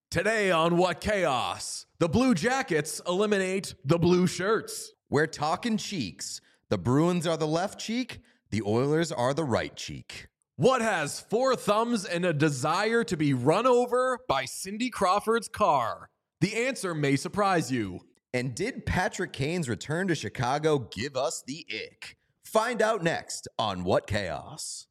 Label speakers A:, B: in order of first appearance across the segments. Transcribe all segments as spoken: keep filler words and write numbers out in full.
A: Today on What Chaos, the Blue Jackets eliminate the blue shirts.
B: We're talking cheeks. The Bruins are the left cheek. The Oilers are the right cheek.
A: What has four thumbs and a desire to be run over by Cindy Crawford's car? The answer may surprise you.
B: And did Patrick Kane's return to Chicago give us the ick? Find out next on What Chaos.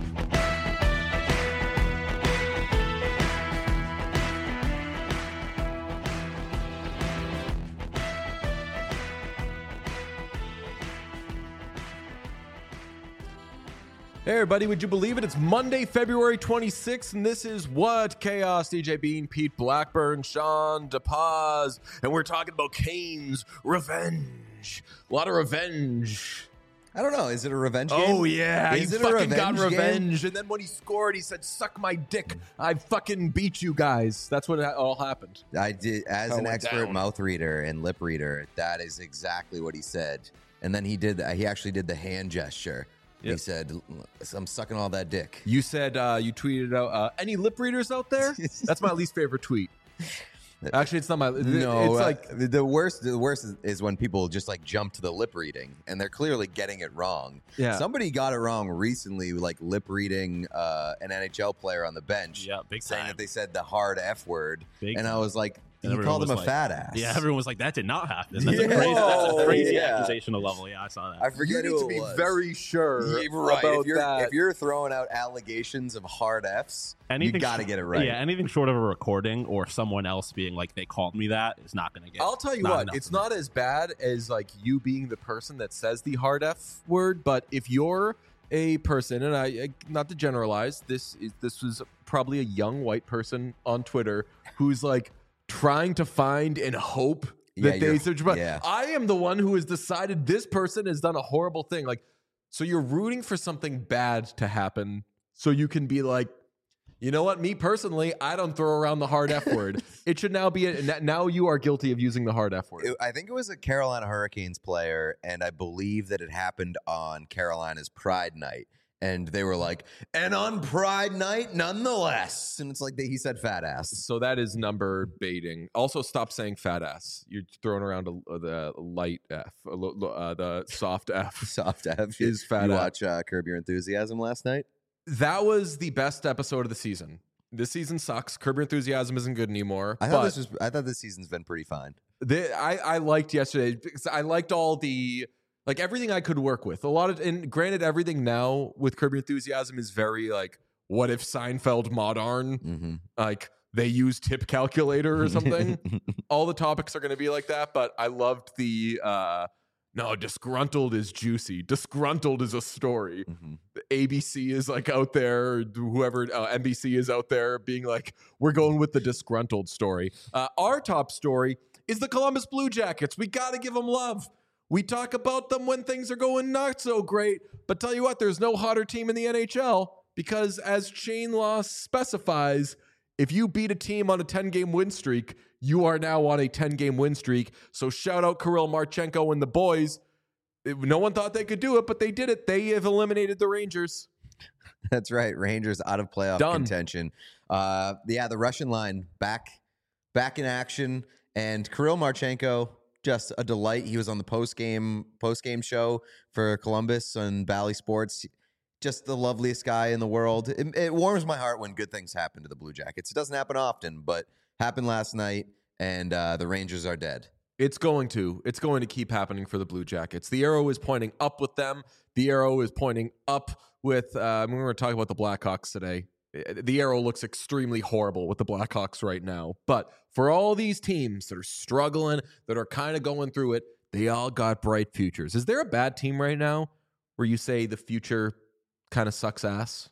A: Hey everybody, would you believe it? It's Monday, February twenty-sixth, and this is What Chaos. D J Bean, Pete Blackburn, Sean DePaz, and we're talking about Kane's revenge. A lot of revenge.
B: I don't know. Is it a revenge game?
A: Oh, yeah.
B: Is
A: he
B: it a
A: fucking got
B: revenge
A: revenge.
B: game?
A: And then when he scored, he said, suck my dick. I fucking beat you guys. That's what all happened.
B: I did. As
A: How it
B: an
A: went
B: expert
A: down.
B: mouth reader and lip reader, that is exactly what he said. And then he did. He actually did the hand gesture.
A: Yep.
B: He said, I'm sucking all that dick.
A: You said, uh, you tweeted out, uh, any lip readers out there? That's my least favorite tweet. Actually, it's not my.
B: No,
A: it's
B: uh,
A: like
B: the worst. The worst is, is when people just like jump to the lip reading, and they're clearly getting it wrong.
A: Yeah.
B: Somebody got it wrong recently, like lip reading uh, an N H L player on the bench.
C: Yeah, big
B: saying
C: time.
B: that they said the hard F word,
C: Big
B: and I
C: time.
B: was like,
C: And
B: he
C: everyone
B: called him
C: was
B: a
C: like-
B: fat ass.
C: Yeah, everyone was like, that did not happen. That's
B: Yeah.
C: a crazy, that's a crazy
B: Yeah.
C: accusational level. Yeah, I saw that.
B: I
A: you
B: forget
A: need
B: who
A: to
B: it
A: be
B: was.
A: very sure
B: Yeah, right.
A: about
B: If you're,
A: that.
B: if you're throwing out allegations of hard Fs, you got to
C: sh-
B: get it right.
C: Yeah, anything short of a recording or someone else being like, they called me that is not going to get.
A: I'll tell you
C: not
A: what,
C: enough
A: it's
C: of it.
A: not as bad as like you being the person that says the hard F word, but if you're a person, and I, I not to generalize, this is this was probably a young white person on Twitter who's like trying to find and hope
B: Yeah,
A: that they
B: you're-
A: search. But
B: yeah.
A: I am the one who has decided this person has done a horrible thing. Like, so you're rooting for something bad to happen, so you can be like, you know what? Me personally, I don't throw around the hard F word. It should now be a, now you are guilty of using the hard F word.
B: It- I think it was a Carolina Hurricanes player, and I believe that it happened on Carolina's Pride Night. And they were like, and on Pride Night, nonetheless. And it's like they, he said fat ass.
A: So that is number baiting. Also, stop saying fat ass. You're throwing around a, the light F, a lo- lo- uh, the soft F.
B: Soft F.
A: Is fat
B: You
A: ass.
B: watch uh, Curb Your Enthusiasm last night?
A: That was the best episode of the season. This season sucks. Curb Your Enthusiasm isn't good anymore.
B: I thought
A: but
B: this was. I thought this season's been pretty fine.
A: the, I, I liked yesterday because I liked all the like everything I could work with. A lot of and granted, everything now with Curb Your Enthusiasm is very like, what if Seinfeld modern?
B: Mm-hmm.
A: Like they use tip calculator or something. All the topics are going to be like that, but I loved the uh no, disgruntled is juicy. Disgruntled is a story.
B: Mm-hmm.
A: A B C is like out there, whoever uh, N B C is out there being like, we're going with the disgruntled story. Uh, our top story is the Columbus Blue Jackets. We got to give them love. We talk about them when things are going not so great, but tell you what, there's no hotter team in the N H L because as chain law specifies, if you beat a team on a ten-game win streak, you are now on a ten-game win streak. So shout out Kirill Marchenko and the boys. It- no one thought they could do it, but they did it. They have eliminated the Rangers.
B: That's right. Rangers out of playoff
A: Done.
B: contention. Uh, yeah, the Russian line back, back in action, and Kirill Marchenko, just a delight. He was on the post game post game show for Columbus on Bally Sports. Just the loveliest guy in the world. It, it warms my heart when good things happen to the Blue Jackets. It doesn't happen often, but happened last night, and uh, the Rangers are dead.
A: It's going to. It's going to keep happening for the Blue Jackets. The arrow is pointing up with them. The arrow is pointing up with, uh, I mean, we're going to talk about the Blackhawks today. The arrow looks extremely horrible with the Blackhawks right now. But for all these teams that are struggling, that are kind of going through it, they all got bright futures. Is there a bad team right now where you say the future kind of sucks ass?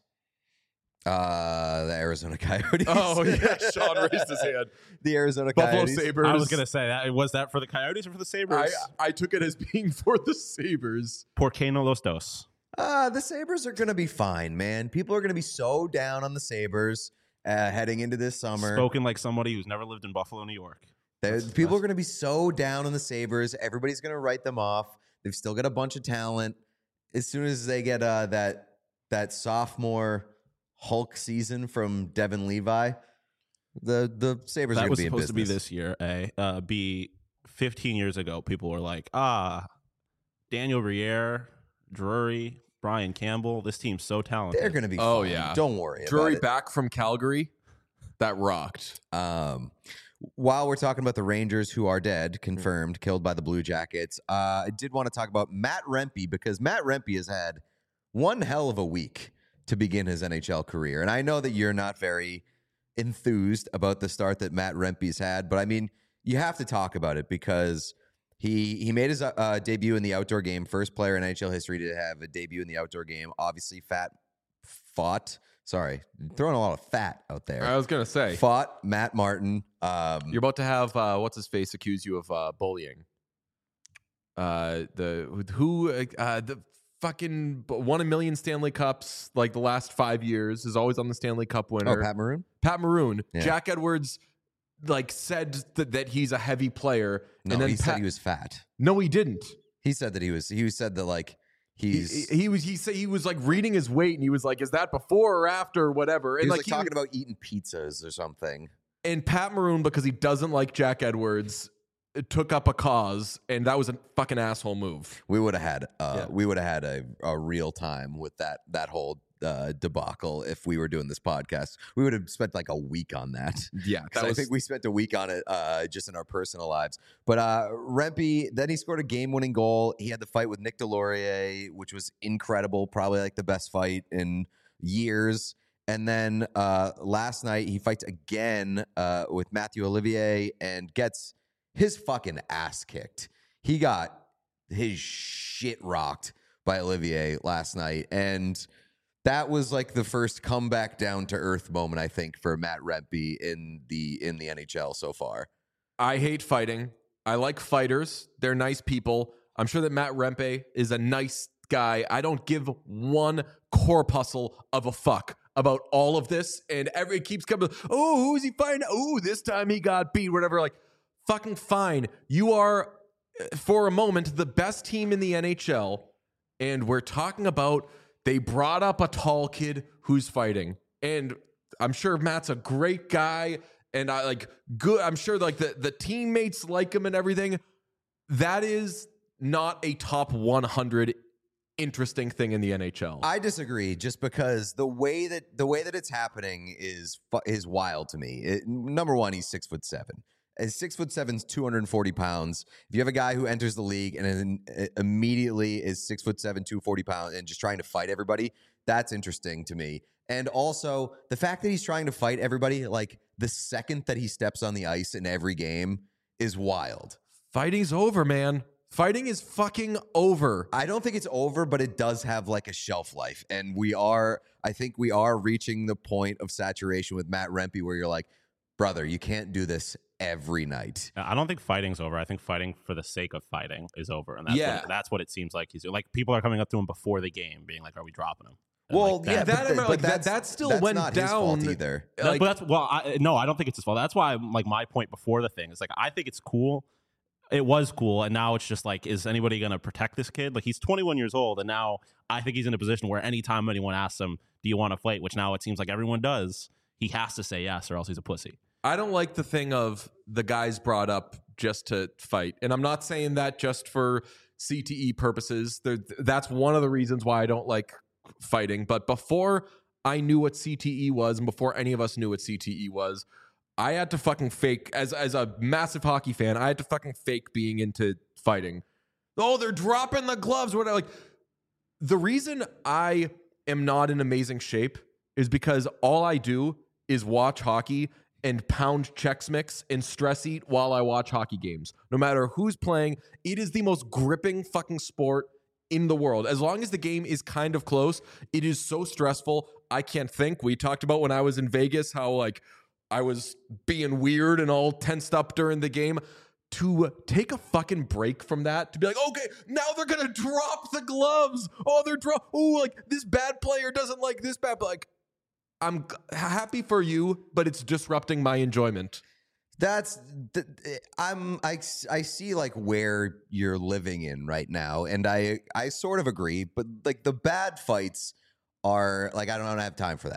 B: Uh, the Arizona Coyotes.
A: Oh, yeah. Sean raised his hand.
B: The Arizona
A: Buffalo
B: Coyotes.
A: Sabres.
C: I was going to say that. Was that for the Coyotes or for the Sabres?
A: I, I took it as being for the Sabres.
C: Por qué no los dos?
B: Uh, the Sabres are going to be fine, man. People are going to be so down on the Sabres uh, heading into this summer.
C: Spoken like somebody who's never lived in Buffalo, New York.
B: They're- People are going to be so down on the Sabres. Everybody's going to write them off. They've still got a bunch of talent. As soon as they get uh, that that sophomore Hulk season from Devin Levi, The the Sabres are
C: That
B: going
C: was
B: to be in
C: supposed to be
B: business.
C: this year. A uh, B fifteen years ago, people were like, ah, Daniel Briere, Drury, Brian Campbell. This team's so talented.
B: They're going to be
A: Oh,
B: fine.
A: yeah.
B: Don't worry
A: Drury
B: about it.
A: back from Calgary. That rocked.
B: Um, while we're talking about the Rangers who are dead, confirmed, killed by the Blue Jackets, uh, I did want to talk about Matt Rempe because Matt Rempe has had one hell of a week to begin his N H L career. And I know that you're not very enthused about the start that Matt Rempe's had, but I mean, you have to talk about it because he he made his uh, debut in the outdoor game, first player in N H L history to have a debut in the outdoor game. Obviously, fat fought. Sorry, throwing a lot of fat out there.
A: I was gonna say
B: Fought Matt Martin. Um,
A: you're about to have uh, what's his face accuse you of uh, bullying. Uh, the who uh, the fucking won a million Stanley Cups like the last five years is always on the Stanley Cup winner.
B: oh, Pat Maroon?
A: Pat Maroon.
B: Yeah.
A: Jack Edwards like said th- that he's a heavy player,
B: No,
A: and then
B: he
A: Pat-
B: said he was fat.
A: no, he didn't.
B: He said that he was. He said that like
A: He,
B: he's.
A: he, he was he said he was like reading his weight, and he was like, "Is that before or after, or whatever?"
B: he
A: And
B: was
A: like
B: like talking about eating pizzas or something.
A: and Pat Maroon, because he doesn't like Jack Edwards, took up a cause, and that was a fucking asshole move.
B: We would have had. Uh,
A: Yeah.
B: We would have had a, a real time with that that whole uh, debacle if we were doing this podcast. We would have spent like a week on that.
A: Yeah,
B: Because I think we spent a week on it uh, just in our personal lives. But uh, Rempe, then he scored a game-winning goal. He had the fight with Nick Delorier, which was incredible, probably like the best fight in years. And then uh, last night he fights again uh, with Matthew Olivier and gets his fucking ass kicked. He got his shit rocked by Olivier last night. And that was like the first comeback down to earth moment, I think, for Matt Rempe in the in the N H L so far.
A: I hate fighting. I like fighters. They're nice people. I'm sure that Matt Rempe is a nice guy. I don't give one corpuscle of a fuck about all of this. And every it keeps coming, oh, who's he fighting? Oh, this time he got beat, whatever. Like, fucking fine. You are, for a moment, the best team in the N H L. And we're talking about they brought up a tall kid who's fighting. And I'm sure Matt's a great guy. And I like good. I'm sure like the, the teammates like him and everything. That is not a top one hundred interesting thing in the N H L.
B: I disagree, just because the way that the way that it's happening is fu- is wild to me. It, number one, he's six foot seven. As six foot seven's two hundred forty pounds. If you have a guy who enters the league and then immediately is six foot seven, two forty pounds, and just trying to fight everybody, that's interesting to me. And also the fact that he's trying to fight everybody, like the second that he steps on the ice in every game, is wild.
A: Fighting's over, man. Fighting is fucking over.
B: I don't think it's over, but it does have like a shelf life. And we are, I think we are reaching the point of saturation with Matt Rempe where you're like, brother, you can't do this every night.
C: I don't think fighting's over. I think fighting for the sake of fighting is over, and that's
A: Yeah.
C: what, that's what it seems like he's like. People are coming up to him before the game, being like, "Are we dropping him?" And
B: Well,
C: like,
B: yeah,
C: that-
A: that-
B: but,
A: I
B: th-
A: mean,
B: but
A: like, that-
B: that's,
A: that still
B: that's
A: went
B: not his fault
A: down.
B: either.
C: No,
A: Like-
C: but that's well, I, no, I don't think it's his fault. That's why, like, my point before the thing is like, I think it's cool. It was cool, and now it's just like, is anybody going to protect this kid? Like, he's twenty-one years old, and now I think he's in a position where anytime anyone asks him, "Do you want to fight?" which now it seems like everyone does, he has to say yes, or else he's a pussy.
A: I don't like the thing of the guys brought up just to fight. And I'm not saying that just for C T E purposes. There, that's one of the reasons why I don't like fighting. But before I knew what C T E was, and before any of us knew what C T E was, I had to fucking fake, as, as a massive hockey fan, I had to fucking fake being into fighting. Oh, they're dropping the gloves. What? Like, the reason I am not in amazing shape is because all I do is watch hockey and pound Chex Mix and stress eat while I watch hockey games. No matter who's playing, it is the most gripping fucking sport in the world. As long as the game is kind of close, it is so stressful. I can't think. We talked about when I was in Vegas how like I was being weird and all tensed up during the game. To take a fucking break from that, to be like, okay, now they're gonna drop the gloves. Oh, they're drop. Oh, like this bad player doesn't like this bad. But like, I'm g- happy for you, but it's disrupting my enjoyment.
B: That's th- I'm I, I see like where you're living in right now, and I I sort of agree, but like the bad fights are like I don't, I don't have time for that.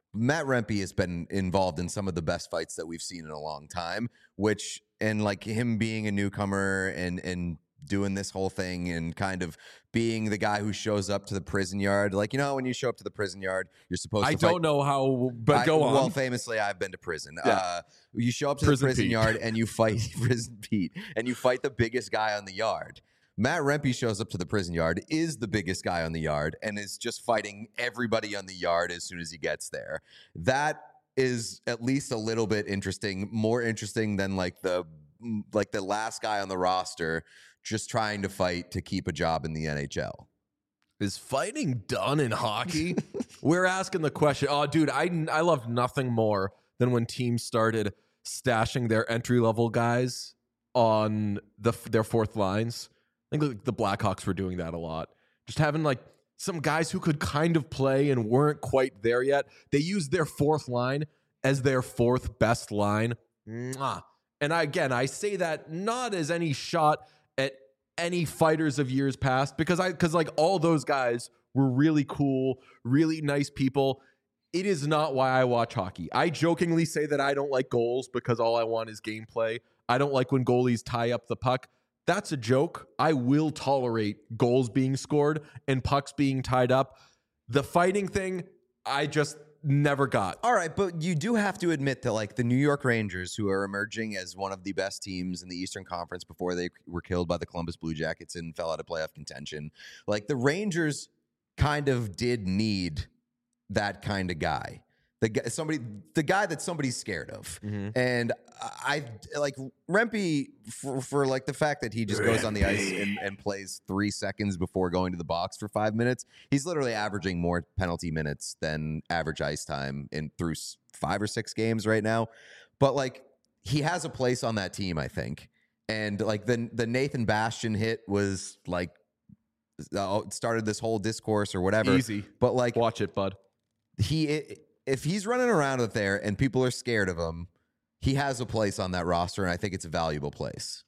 B: Matt Rempe has been involved in some of the best fights that we've seen in a long time, which, and like him being a newcomer and, and doing this whole thing and kind of being the guy who shows up to the prison yard. Like, you know, when you show up to the prison yard, you're supposed
A: I
B: to
A: don't
B: fight.
A: know how, but
B: I,
A: go on.
B: Well, famously, I've been to prison.
A: Yeah.
B: Uh, you show up to
A: Prison
B: the prison
A: Pete.
B: yard and you fight Prison Pete and you fight the biggest guy on the yard. Matt Rempe shows up to the prison yard, is the biggest guy on the yard, and is just fighting everybody on the yard as soon as he gets there. That is at least a little bit interesting, more interesting than like the like the last guy on the roster just trying to fight to keep a job in the N H L.
A: Is fighting done in hockey? We're asking the question. Oh, dude, I, I love nothing more than when teams started stashing their entry-level guys on the their fourth lines. I think like the Blackhawks were doing that a lot. Just having like some guys who could kind of play and weren't quite there yet. They used their fourth line as their fourth best line. Mwah. And I, again, I say that not as any shot at any fighters of years past, because I because like all those guys were really cool, really nice people. It is not why I watch hockey. I jokingly say that I don't like goals because all I want is gameplay. I don't like when goalies tie up the puck. That's a joke. I will tolerate goals being scored and pucks being tied up. The fighting thing, I just never got.
B: All right, but you do have to admit that, like, the New York Rangers, who are emerging as one of the best teams in the Eastern Conference before they were killed by the Columbus Blue Jackets and fell out of playoff contention, like, the Rangers kind of did need that kind of guy. The guy, somebody, the guy that somebody's scared of,
A: Mm-hmm.
B: and I like Rempe for, for like the fact that he just goes on the ice and, and plays three seconds before going to the box for five minutes. He's literally averaging more penalty minutes than average ice time in through s- five or six games right now. But like he has a place on that team, I think. And like the the Nathan Bastian hit was like uh, started this whole discourse or whatever.
A: Easy.
B: But like
A: Watch it, bud.
B: he. If he's running around out there and people are scared of him, he has a place on that roster, and I think it's a valuable place.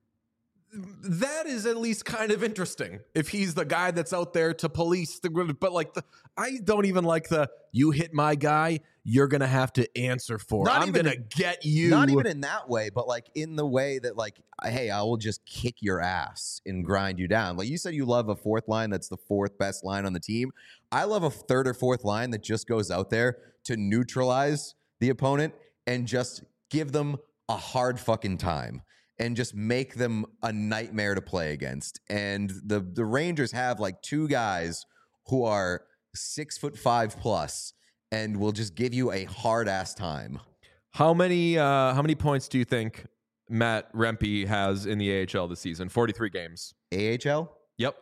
A: That is at least kind of interesting. If he's the guy that's out there to police the, but like the, I don't even like the you hit my guy, you're gonna have to answer for.
B: Not
A: I'm
B: even
A: gonna
B: in-
A: get you.
B: Not even in that way, but like in the way that like, hey, I will just kick your ass and grind you down. Like you said, you love a fourth line that's the fourth best line on the team. I love a third or fourth line that just goes out there to neutralize the opponent and just give them a hard fucking time and just make them a nightmare to play against. And the the Rangers have like two guys who are six foot five plus and will just give you a hard ass time.
A: How many uh, how many points do you think Matt Rempe has in the A H L this season? forty-three games.
B: A H L?
A: Yep.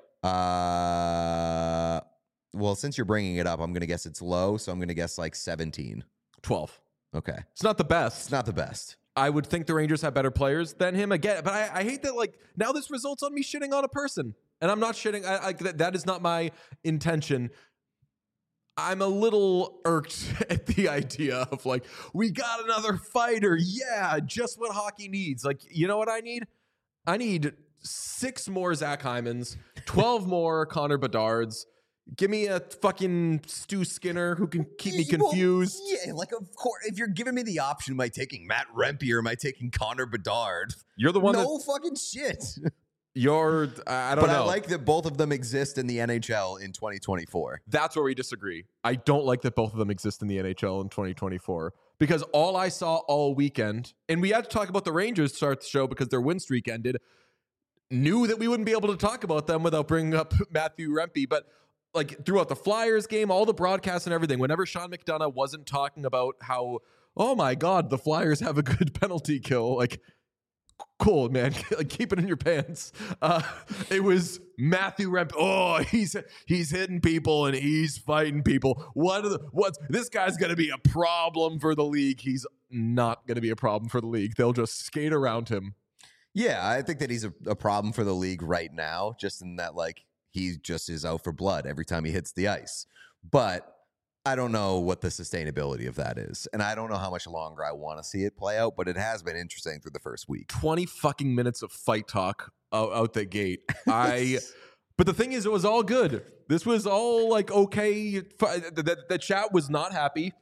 B: Uh, well, since you're bringing it up, I'm going to guess it's low, so I'm going to guess like seventeen.
A: twelve.
B: Okay.
A: It's not the best.
B: It's not the best.
A: I would think the Rangers have better players than him again, but I, I hate that. Like now, this results on me shitting on a person, and I'm not shitting. I, I, that, that is not my intention. I'm a little irked at the idea of like we got another fighter. Yeah, just what hockey needs. Like you know what I need? I need six more Zach Hymans, twelve more Connor Bedards. Give me a fucking Stu Skinner who can keep me
B: Well,
A: confused.
B: yeah, like of course, if you're giving me the option, am I taking Matt Rempe or am I taking Connor Bedard?
A: You're the one
B: no
A: that
B: fucking shit.
A: you're. I don't
B: But
A: know.
B: I like that both of them exist in the N H L in twenty twenty-four.
A: That's where we disagree. I don't like that both of them exist in the N H L in twenty twenty-four because all I saw all weekend, and we had to talk about the Rangers to start the show because their win streak ended, knew that we wouldn't be able to talk about them without bringing up Matthew Rempe. But like throughout the Flyers game, all the broadcasts and everything, whenever Sean McDonough wasn't talking about how, oh my God, the Flyers have a good penalty kill, like, cool, man. Like, keep it in your pants. Uh, it was Matthew Rempe. Oh, he's he's hitting people and he's fighting people. What? Are the, what's this guy's going to be a problem for the league? He's not going to be a problem for the league. They'll just skate around him.
B: Yeah, I think that he's a, a problem for the league right now, just in that like he just is out for blood every time he hits the ice. But I don't know what the sustainability of that is. And I don't know how much longer I want to see it play out, but it has been interesting through the first week.
A: twenty fucking minutes of fight talk out, out the gate. I, but the thing is, it was all good. This was all like okay. The, the, the chat was not happy.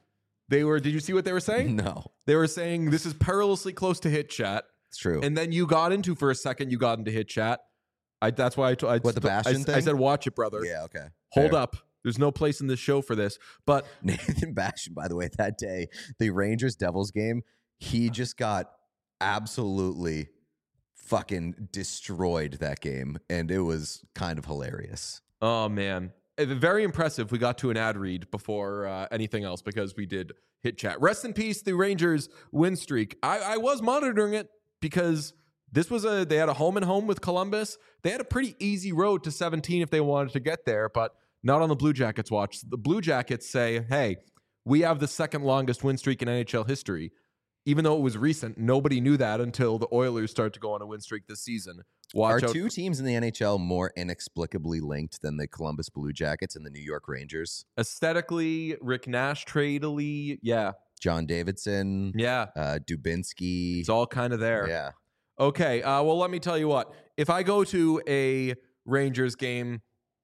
A: They were. Did you see what they were saying?
B: No,
A: They were saying this is perilously close to hit chat,
B: it's true.
A: and then you got into for a second. You got into hit chat. I. That's why I. T- I
B: What, the Bastion
A: I,
B: thing?
A: I said, watch it, brother.
B: yeah, okay.
A: Hold
B: Fair.
A: up. There's no place in this show for this. But
B: Nathan Bastion, by the way, that day, the Rangers Devils game, he just got absolutely fucking destroyed that game, and it was kind of hilarious.
A: oh man, Uh, very impressive. We got to an ad read before uh, anything else because we did hit chat. Rest in peace, the Rangers win streak. I, I was monitoring it because this was a they had a home and home with Columbus. They had a pretty easy road to seventeen if they wanted to get there, but not on the Blue Jackets watch. The Blue Jackets say, hey, we have the second longest win streak in N H L history. Even though it was recent, nobody knew that until the Oilers start to go on a win streak this season. Watch
B: Are
A: out.
B: two teams in the N H L more inexplicably linked than the Columbus Blue Jackets and the New York Rangers?
A: Aesthetically, Rick Nash tradely, yeah.
B: John Davidson,
A: Yeah.
B: uh, Dubinsky.
A: It's all kind of there.
B: Yeah.
A: Okay. Uh, well, let me tell you what. If I go to a Rangers game,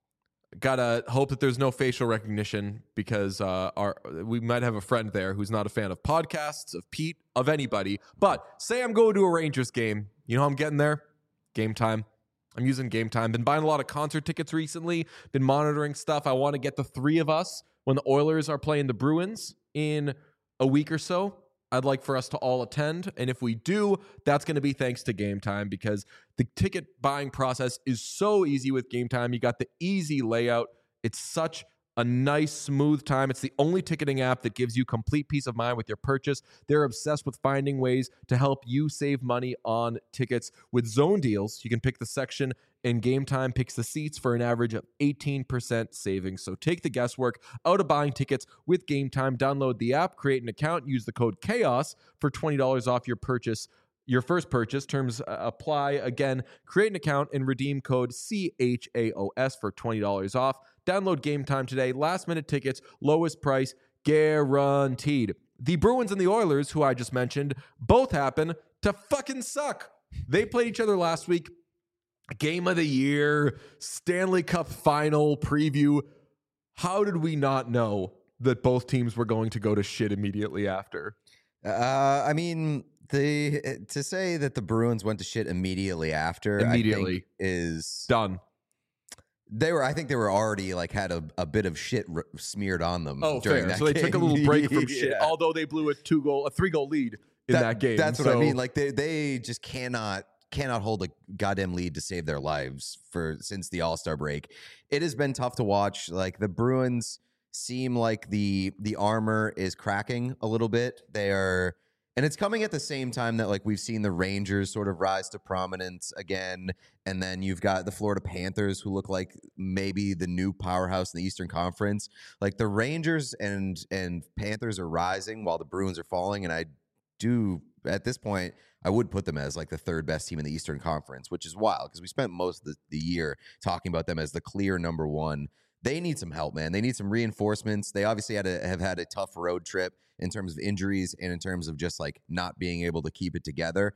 A: gotta hope that there's no facial recognition because uh, our we might have a friend there who's not a fan of podcasts, of Pete, of anybody. But say I'm going to a Rangers game. You know how I'm getting there? Game Time. I'm using Game Time. Been buying a lot of concert tickets recently. Been monitoring stuff. I want to get the three of us when the Oilers are playing the Bruins in a week or so. I'd like for us to all attend. And if we do, that's going to be thanks to Game Time because the ticket buying process is so easy with Game Time. You got the easy layout. It's such a nice, smooth time. It's the only ticketing app that gives you complete peace of mind with your purchase. They're obsessed with finding ways to help you save money on tickets. With Zone Deals, you can pick the section and Game Time picks the seats for an average of eighteen percent savings. So take the guesswork out of buying tickets with Game Time. Download the app, create an account, use the code CHAOS for twenty dollars off your purchase. Your first purchase. Terms uh, apply. Again, create an account and redeem code C H A O S for twenty dollars off. Download Game Time today. Last minute tickets, lowest price guaranteed. The Bruins and the Oilers, who I just mentioned, both happen to fucking suck. They played each other last week. Game of the year, Stanley Cup final preview. How did we not know that both teams were going to go to shit immediately after?
B: Uh, I mean, the to say that the Bruins went to shit immediately after
A: Immediately.
B: I think is
A: Done.
B: they were. I think they were already like had a, a bit of shit r- smeared on them.
A: Oh,
B: during
A: fair.
B: that
A: So they
B: game.
A: took a little break from shit,
B: Yeah.
A: although they blew a two goal, a three goal lead in that,
B: That-
A: game.
B: That's what I
A: So-
B: mean. Like they they just cannot cannot hold a goddamn lead to save their lives for since the All-Star break. It has been tough to watch. Like the Bruins seem like the the armor is cracking a little bit. They are and it's coming at the same time that like we've seen the Rangers sort of rise to prominence again, and then you've got the Florida Panthers who look like maybe the new powerhouse in the Eastern Conference. Like the Rangers and and Panthers are rising while the Bruins are falling, and I do at this point I would put them as like the third best team in the Eastern Conference, which is wild because we spent most of the, the year talking about them as the clear number one. They need some help, man. They need some reinforcements. They obviously had a, have had a tough road trip in terms of injuries and in terms of just like not being able to keep it together.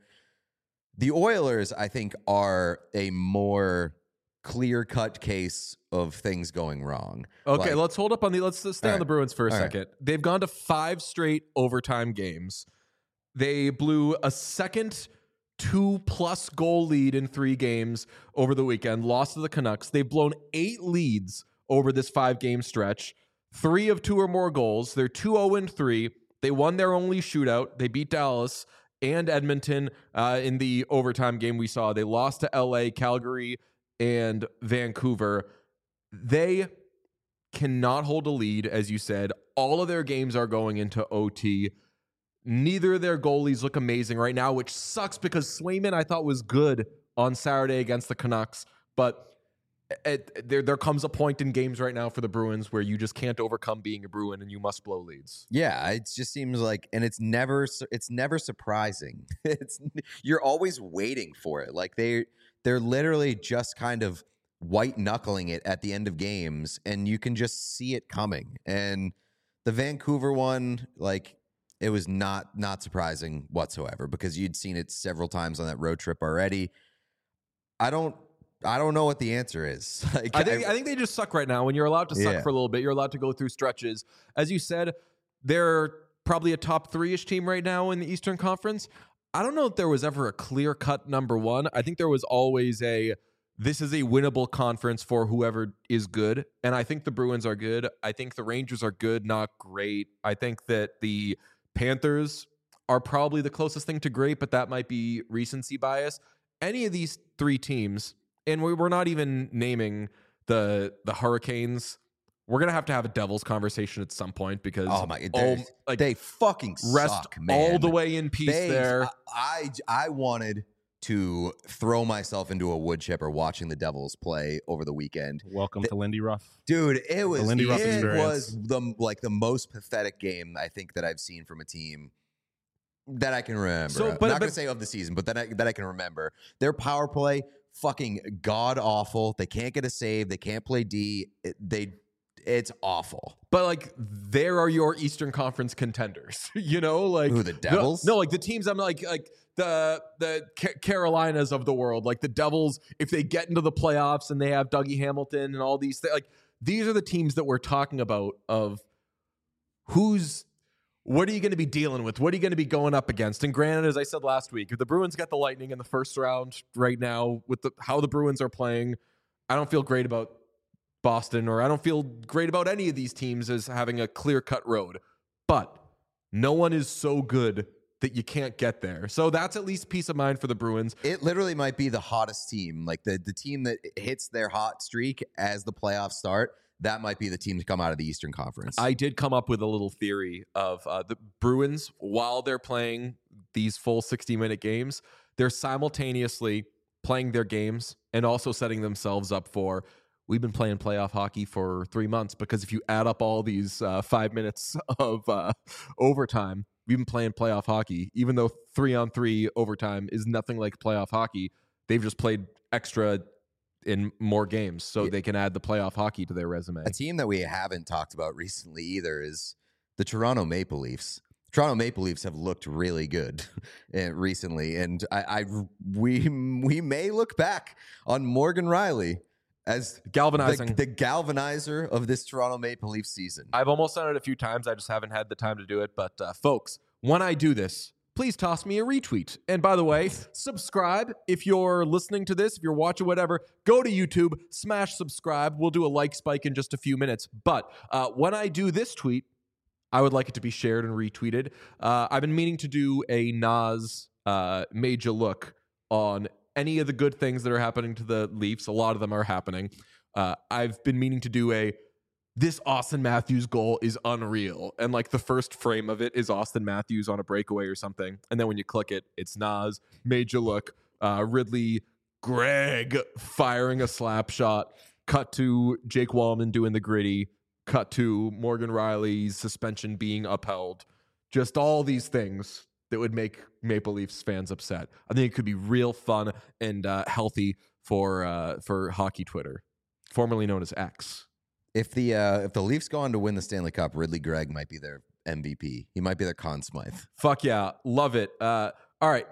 B: The Oilers, I think, are a more clear-cut case of things going wrong.
A: Okay,
B: Like-
A: let's hold up on the. Let's stay
B: All
A: on the
B: right.
A: Bruins for a
B: All right.
A: second. They've gone to five straight overtime games. They blew a second two-plus goal lead in three games over the weekend. Lost to the Canucks. They've blown eight leads over this five-game stretch. Three of two or more goals. They're two oh and three. They won their only shootout. They beat Dallas and Edmonton uh, in the overtime game we saw. They lost to L A, Calgary, and Vancouver. They cannot hold a lead, as you said. All of their games are going into O T. Neither of their goalies look amazing right now, which sucks because Swayman I thought was good on Saturday against the Canucks. But it, there, there comes a point in games right now for the Bruins where you just can't overcome being a Bruin and you must blow leads.
B: Yeah, it just seems like, and it's never, su- it's never surprising. It's you're always waiting for it. Like they, they're literally just kind of white knuckling it at the end of games, and you can just see it coming. And the Vancouver one, like it was not not surprising whatsoever because you'd seen it several times on that road trip already. I don't. I don't know what the answer is. Like,
A: I think I think they just suck right now. When you're allowed to suck
B: Yeah.
A: for a little bit, you're allowed to go through stretches. As you said, they're probably a top three-ish team right now in the Eastern Conference. I don't know if there was ever a clear-cut number one. I think there was always a, this is a winnable conference for whoever is good. And I think the Bruins are good. I think the Rangers are good, not great. I think that the Panthers are probably the closest thing to great, but that might be recency bias. Any of these three teams, and we're not even naming the the Hurricanes. We're gonna have to have a Devils conversation at some point because
B: Oh my!
A: oh,
B: They,
A: like
B: they fucking
A: rest
B: suck, man.
A: all the way in peace
B: They-
A: there.
B: I, I I wanted to throw myself into a wood chipper watching the Devils play over the weekend,
C: Welcome
B: The-
C: to Lindy Ruff.
B: dude. It was
C: Lindy Ruff
B: it
C: experience.
B: was the like the most pathetic game I think that I've seen from a team that I can remember.
A: So,
B: I'm
A: but-
B: not
A: but-
B: gonna say of the season, but that I, that I can remember. Their power play fucking god awful. They can't get a save. They can't play D. It, they it's awful.
A: But like, there are your Eastern Conference contenders. You know, like
B: Who, the Devils?
A: No, like the teams. I'm like like the the Ca- Carolinas of the world. Like the Devils, if they get into the playoffs and they have Dougie Hamilton and all these things, like these are the teams that we're talking about. Of who's what are you going to be dealing with? What are you going to be going up against? And granted, as I said last week, if the Bruins got the Lightning in the first round right now with the how the Bruins are playing, I don't feel great about Boston, or I don't feel great about any of these teams as having a clear-cut road. But no one is so good that you can't get there. So that's at least peace of mind for the Bruins.
B: It literally might be the hottest team, like the the team that hits their hot streak as the playoffs start. That might be the team to come out of the Eastern Conference.
A: I did come up with a little theory of uh, the Bruins, while they're playing these full sixty-minute games, they're simultaneously playing their games and also setting themselves up for, we've been playing playoff hockey for three months because if you add up all these uh, five minutes of uh, overtime, we've been playing playoff hockey. Even though three on three overtime is nothing like playoff hockey, they've just played extra in more games so
B: Yeah.
A: they can add the playoff hockey to their resume.
B: A team that we haven't talked about recently either is the Toronto Maple Leafs. Toronto Maple Leafs have looked really good uh, recently, and I, I we we may look back on Morgan Riley as
A: Galvanizing.
B: the, the galvanizer of this Toronto Maple Leafs season.
A: I've almost done it a few times. I just haven't had the time to do it. But uh, folks, when I do this, please toss me a retweet. And by the way, subscribe if you're listening to this, if you're watching whatever, go to YouTube, smash subscribe. We'll do a like spike in just a few minutes. But uh, when I do this tweet, I would like it to be shared and retweeted. Uh, I've been meaning to do a Nas uh, major look on any of the good things that are happening to the Leafs. A lot of them are happening. Uh, I've been meaning to do a this Austin Matthews goal is unreal. And like the first frame of it is Austin Matthews on a breakaway or something. And then when you click it, it's Nas, major look, uh, Ridley, Greg firing a slap shot, cut to Jake Wallman doing the gritty, cut to Morgan Riley's suspension being upheld. Just all these things that would make Maple Leafs fans upset. I think it could be real fun and uh, healthy for uh, for hockey Twitter, formerly known as X.
B: If the uh, if the Leafs go on to win the Stanley Cup, Ridley Gregg might be their M V P. He might be their Conn Smythe.
A: Fuck yeah, love it. Uh, all right.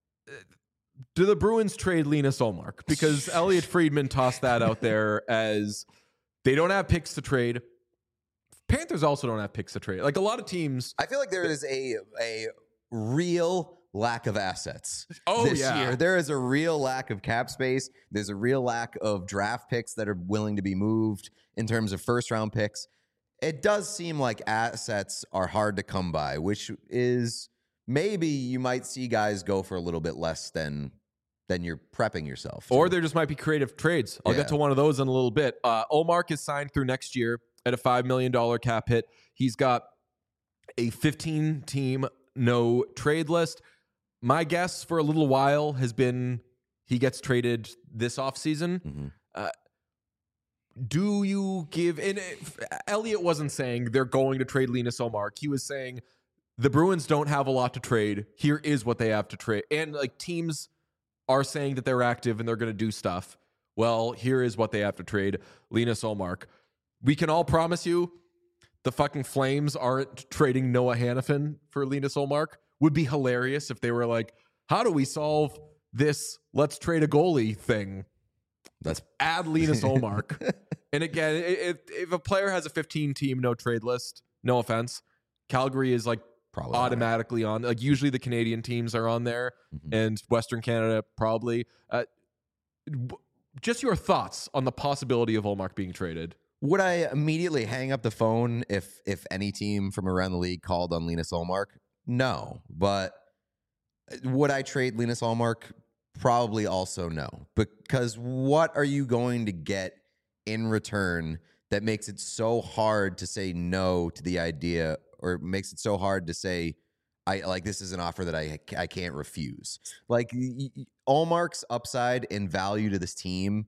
A: Do the Bruins trade Linus Olmark? Because Elliot Friedman tossed that out there as they don't have picks to trade. Panthers also don't have picks to trade. Like a lot of teams.
B: I feel like there is a a real lack of assets
A: Oh,
B: this
A: yeah.
B: year. There is a real lack of cap space. There's a real lack of draft picks that are willing to be moved in terms of first round picks. It does seem like assets are hard to come by, which is maybe you might see guys go for a little bit less than than you're prepping yourself to.
A: Or there just might be creative trades. I'll
B: Yeah.
A: get to one of those in a little bit. Uh, Olmark is signed through next year at a five million dollars cap hit. He's got a fifteen-team no trade list. My guess for a little while has been he gets traded this offseason.
B: Mhm.
A: Uh, do you give... And if, Elliot wasn't saying they're going to trade Linus Olmark. He was saying the Bruins don't have a lot to trade. Here is what they have to trade. And like teams are saying that they're active and they're going to do stuff. Well, here is what they have to trade. Linus Olmark. We can all promise you the fucking Flames aren't trading Noah Hannafin for Linus Olmark. Would be hilarious if they were like, how do we solve this let's trade a goalie thing?
B: That's
A: Add Linus Olmark. And again, if, if a player has a fifteen-team no trade list, no offense, Calgary is like
B: probably on it.
A: automatically on. Like usually the Canadian teams are on there,
B: Mhm.
A: and Western Canada probably. Uh, w- just your thoughts on the possibility of Ullmark being traded.
B: Would I immediately hang up the phone if if any team from around the league called on Linus Ullmark? No, but would I trade Linus Ullmark? Probably also no, because what are you going to get in return that makes it so hard to say no to the idea, or makes it so hard to say, I like this is an offer that I I can't refuse. Like y- y- Ullmark's upside and value to this team,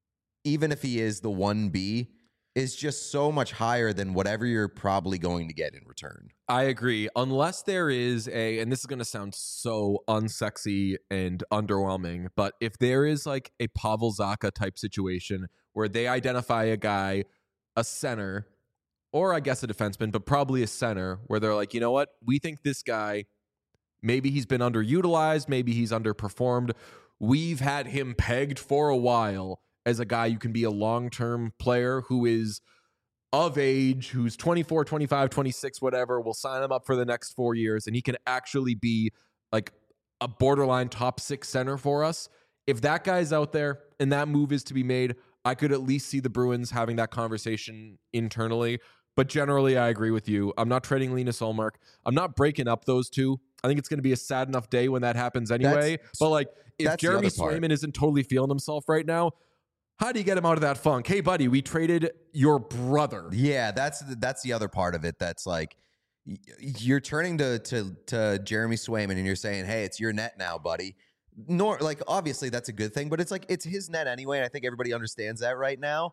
B: even if he is the one B, is just so much higher than whatever you're probably going to get in return.
A: I agree. Unless there is a, and this is going to sound so unsexy and underwhelming, but if there is like a Pavel Zacha type situation where they identify a guy, a center, or I guess a defenseman, but probably a center, where they're like, you know what? We think this guy, maybe he's been underutilized, maybe he's underperformed. We've had him pegged for a while as a guy you can be a long-term player who is of age, who's twenty-four, twenty-five, twenty-six, whatever. We'll sign him up for the next four years, and he can actually be like a borderline top six center for us. If that guy's out there and that move is to be made, I could at least see the Bruins having that conversation internally. But generally, I agree with you. I'm not trading Linus Ullmark. I'm not breaking up those two. I think it's going to be a sad enough day when that happens anyway.
B: That's-
A: but like, if
B: that's the
A: Jeremy
B: other part.
A: Swayman isn't totally feeling himself right now, how do you get him out of that funk? Hey, buddy, we traded your brother.
B: Yeah, that's the, that's the other part of it. That's like y- you're turning to to to Jeremy Swayman and you're saying, "Hey, it's your net now, buddy." Nor like obviously that's a good thing, but it's like it's his net anyway, and I think everybody understands that right now.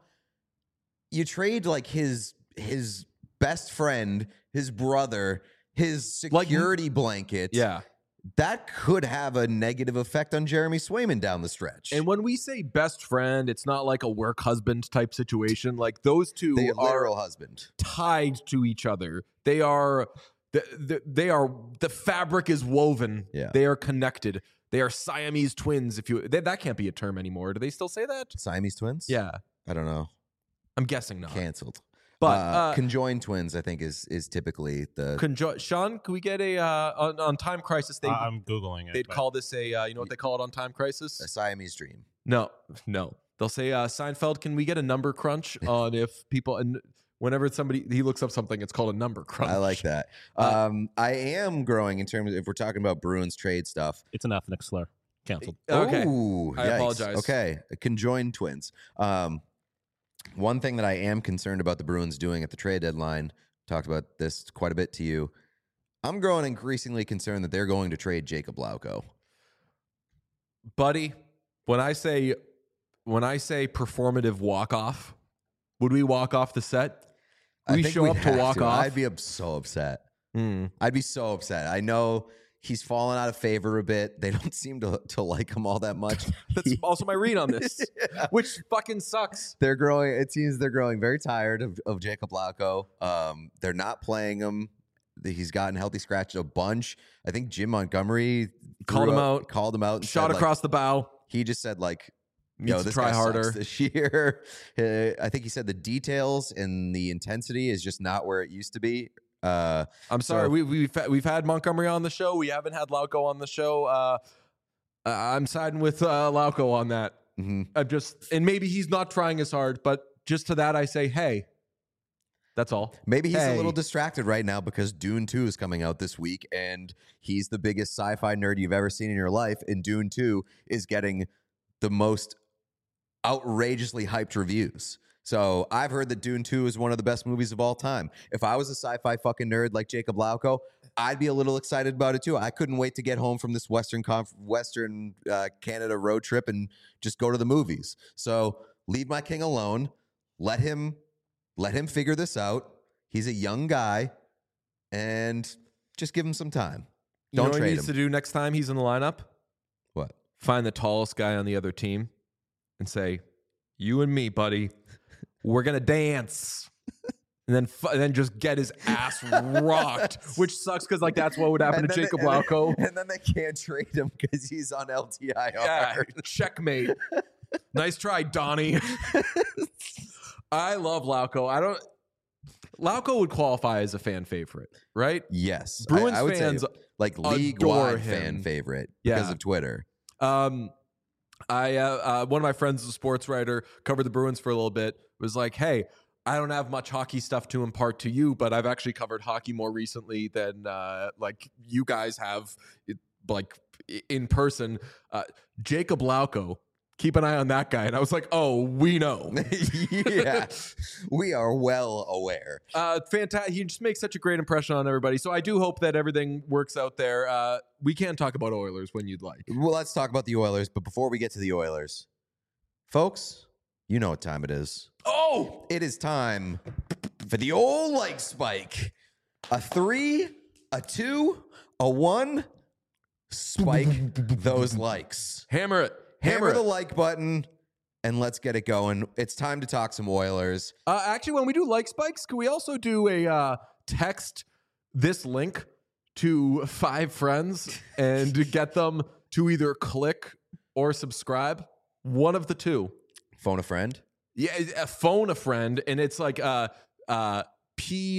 B: You trade like his his best friend, his brother, his
A: Like-
B: security blanket.
A: Yeah.
B: That could have a negative effect on Jeremy Swayman down the stretch.
A: And when we say best friend, it's not like a work husband type situation. Like those two
B: the
A: are
B: literal husband.
A: tied to each other. They are the, the, they are the fabric is woven.
B: Yeah.
A: They are connected. They are Siamese twins. If you they, that can't be a term anymore. Do they still say that?
B: Siamese twins?
A: Yeah,
B: I don't know.
A: I'm guessing not.
B: Canceled.
A: But
B: uh,
A: uh,
B: conjoined twins, I think, is is typically the
A: conjo- Sean, can we get a uh, on, on Time Crisis? They
C: I- I'm googling it.
A: they'd
C: but-
A: call this a uh, you know what they call it on Time Crisis?
B: a Siamese dream.
A: No, no. They'll say, uh, Seinfeld, can we get a number crunch on if people, and whenever somebody, he looks up something, it's called a number crunch.
B: I like that.
A: Uh,
B: Um, I am growing in terms of, if we're talking about Bruins trade stuff.
C: It's an ethnic slur. Canceled.
A: Okay.
B: Ooh,
A: I
B: yikes.
A: apologize.
B: Okay. Conjoined twins. Um, one thing that I am concerned about the Bruins doing at the trade deadline, talked about this quite a bit to you. I'm growing increasingly concerned that they're going to trade Jacob Lauko.
A: Buddy, when I say, when I say performative walk off, would we walk off the set?
B: I
A: We
B: think
A: show
B: we'd
A: up to
B: have
A: walk off.
B: I'd be up- so upset.
A: Mm.
B: I'd be so upset. I know he's fallen out of favor a bit. They don't seem to, to like him all that much.
A: That's also my read on this, which fucking sucks.
B: They're growing. It seems they're growing very tired of, of Jacob Lauko. Um, they're not playing him. He's gotten healthy scratched a bunch. I think Jim Montgomery
A: Called
B: threw
A: him
B: up-
A: out.
B: Called him out. And
A: Shot
B: said, like-
A: across the bow.
B: he just said like,
A: Needs
B: "Yo,
A: to
B: this
A: try
B: guy sucks
A: harder.
B: this year." Uh, I think he said the details and the intensity is just not where it used to be. Uh,
A: I'm sorry.
B: So-
A: we, we've we've had Montgomery on the show. We haven't had Lauko on the show. Uh, uh, I'm siding with uh, Lauko on that.
B: mhm.
A: I'm just, and maybe he's not trying as hard, but just to that I say, hey, that's all.
B: Maybe he's a little
A: Hey.
B: distracted right now because Dune two is coming out this week, and he's the biggest sci-fi nerd you've ever seen in your life. And Dune two is getting the most outrageously hyped reviews. So I've heard that Dune two is one of the best movies of all time. If I was a sci-fi fucking nerd like Jacob Lauko, I'd be a little excited about it too. I couldn't wait to get home from this Western Conf- Western uh, Canada road trip and just go to the movies. So leave my king alone. Let him let him figure this out. He's a young guy, and just give him some time.
A: You know
B: Don't
A: what he
B: trade
A: needs
B: him.
A: to do next time he's in the lineup?
B: What?
A: Find the tallest guy on the other team and say, "You and me, buddy, we're gonna dance." And then, fu- and then just get his ass rocked, which sucks because like that's what would happen
B: And
A: to
B: then
A: Jacob
B: they, and
A: Lauko.
B: Then, and then they can't trade him because he's on L T I R.
A: Yeah, checkmate. Nice try, Donnie. I love Lauko. I don't Lauko would qualify as a fan favorite, right?
B: Yes.
A: Bruins
B: I, I would
A: fans
B: say like
A: adore
B: league-wide
A: him.
B: fan favorite because
A: Yeah.
B: of Twitter.
A: Um, I uh, uh, one of my friends is a sports writer, covered the Bruins for a little bit. Was like, hey, I don't have much hockey stuff to impart to you, but I've actually covered hockey more recently than uh, like you guys have, it, like i- in person. Uh, Jacob Lauko, keep an eye on that guy. And I was like, oh, we know.
B: Yeah. We are well aware.
A: Uh, fantastic. He just makes such a great impression on everybody. So I do hope that everything works out there. Uh, we can talk about Oilers when you'd like.
B: Well, let's talk about the Oilers. But before we get to the Oilers, folks, you know what time it is.
A: Oh,
B: It is time for the old like spike. A three, a two, a one. Spike those likes.
A: hammer it.
B: Hammer
A: Hammer
B: the
A: it.
B: like button and let's get it going. It's time to talk some Oilers.
A: Uh, actually, when we do like spikes, can we also do a uh, text this link to five friends and get them to either click or subscribe? One of the two.
B: Phone a friend.
A: Yeah, a phone a friend, and it's like uh, uh, P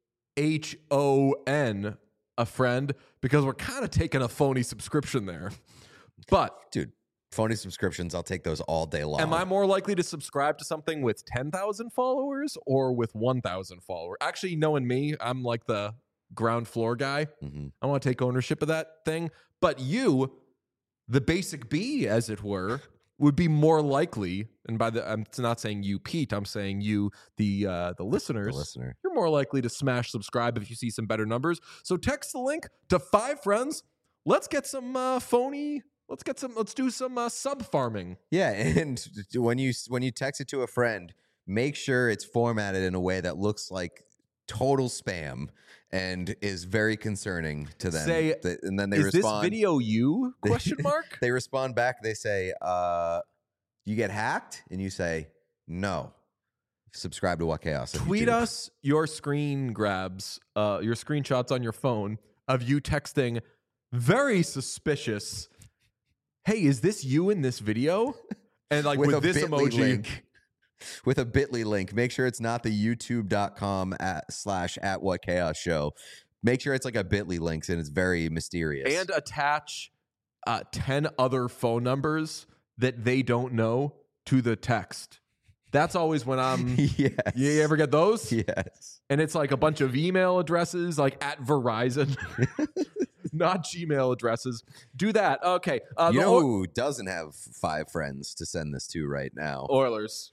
A: H O N a friend, because we're kind of taking a phony subscription there. But
B: Dude, phony subscriptions, I'll take those all day long.
A: am I more likely to subscribe to something with ten thousand followers or with one thousand followers? Actually, knowing me, I'm like the ground floor guy.
B: Mhm.
A: I want to take ownership of that thing. But you, the basic B, as it were, would be more likely, and by the I'm not saying you, Pete, I'm saying you, the uh, the
B: The
A: listeners,
B: listener.
A: you're more likely to smash subscribe if you see some better numbers. So text the link to five friends. Let's get some uh, phony. Let's get some. Let's do some uh, sub farming.
B: Yeah, and when you when you text it to a friend, make sure it's formatted in a way that looks like total spam and is very concerning to them.
A: Say,
B: Th- and then they
A: Is
B: respond.
A: this video you? Question mark.
B: They respond back. They say, uh, "You get hacked," and you say, "No." Subscribe to What Chaos. on
A: Tweet
B: YouTube.
A: us your screen grabs, uh, your screenshots on your phone of you texting very suspicious. Hey, is this you in this video? And like with,
B: a
A: this
B: bit.ly
A: emoji.
B: link. With a bit dot l y link. Make sure it's not the youtube dot com at slash at What Chaos Show. Make sure it's like a bit dot l y link and it's very mysterious.
A: And attach uh, ten other phone numbers that they don't know to the text. That's always when I'm.
B: yes.
A: You ever get those?
B: Yes.
A: And it's like a bunch of email addresses, like at Verizon, not Gmail addresses. Do that. Okay. Uh,
B: You
A: the
B: know
A: Oil-
B: who doesn't have five friends to send this to right now?
A: Oilers.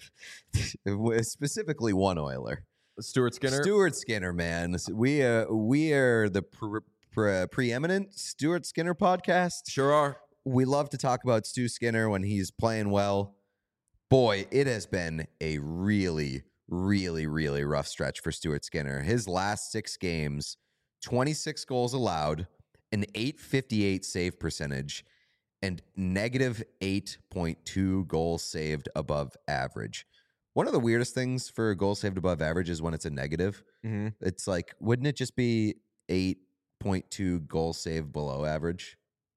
B: Specifically one Oiler.
A: Stuart Skinner.
B: Stuart Skinner, man. We uh, we are the pre- pre- preeminent Stuart Skinner podcast.
A: Sure are.
B: We love to talk about Stu Skinner when he's playing well. Boy, it has been a really, really, really rough stretch for Stuart Skinner. His last six games, twenty-six goals allowed, an eight fifty-eight save percentage, and negative eight point two goals saved above average. One of the weirdest things for a goal saved above average is when it's a negative.
A: Mm-hmm.
B: It's like, wouldn't it just be eight point two goals saved below average?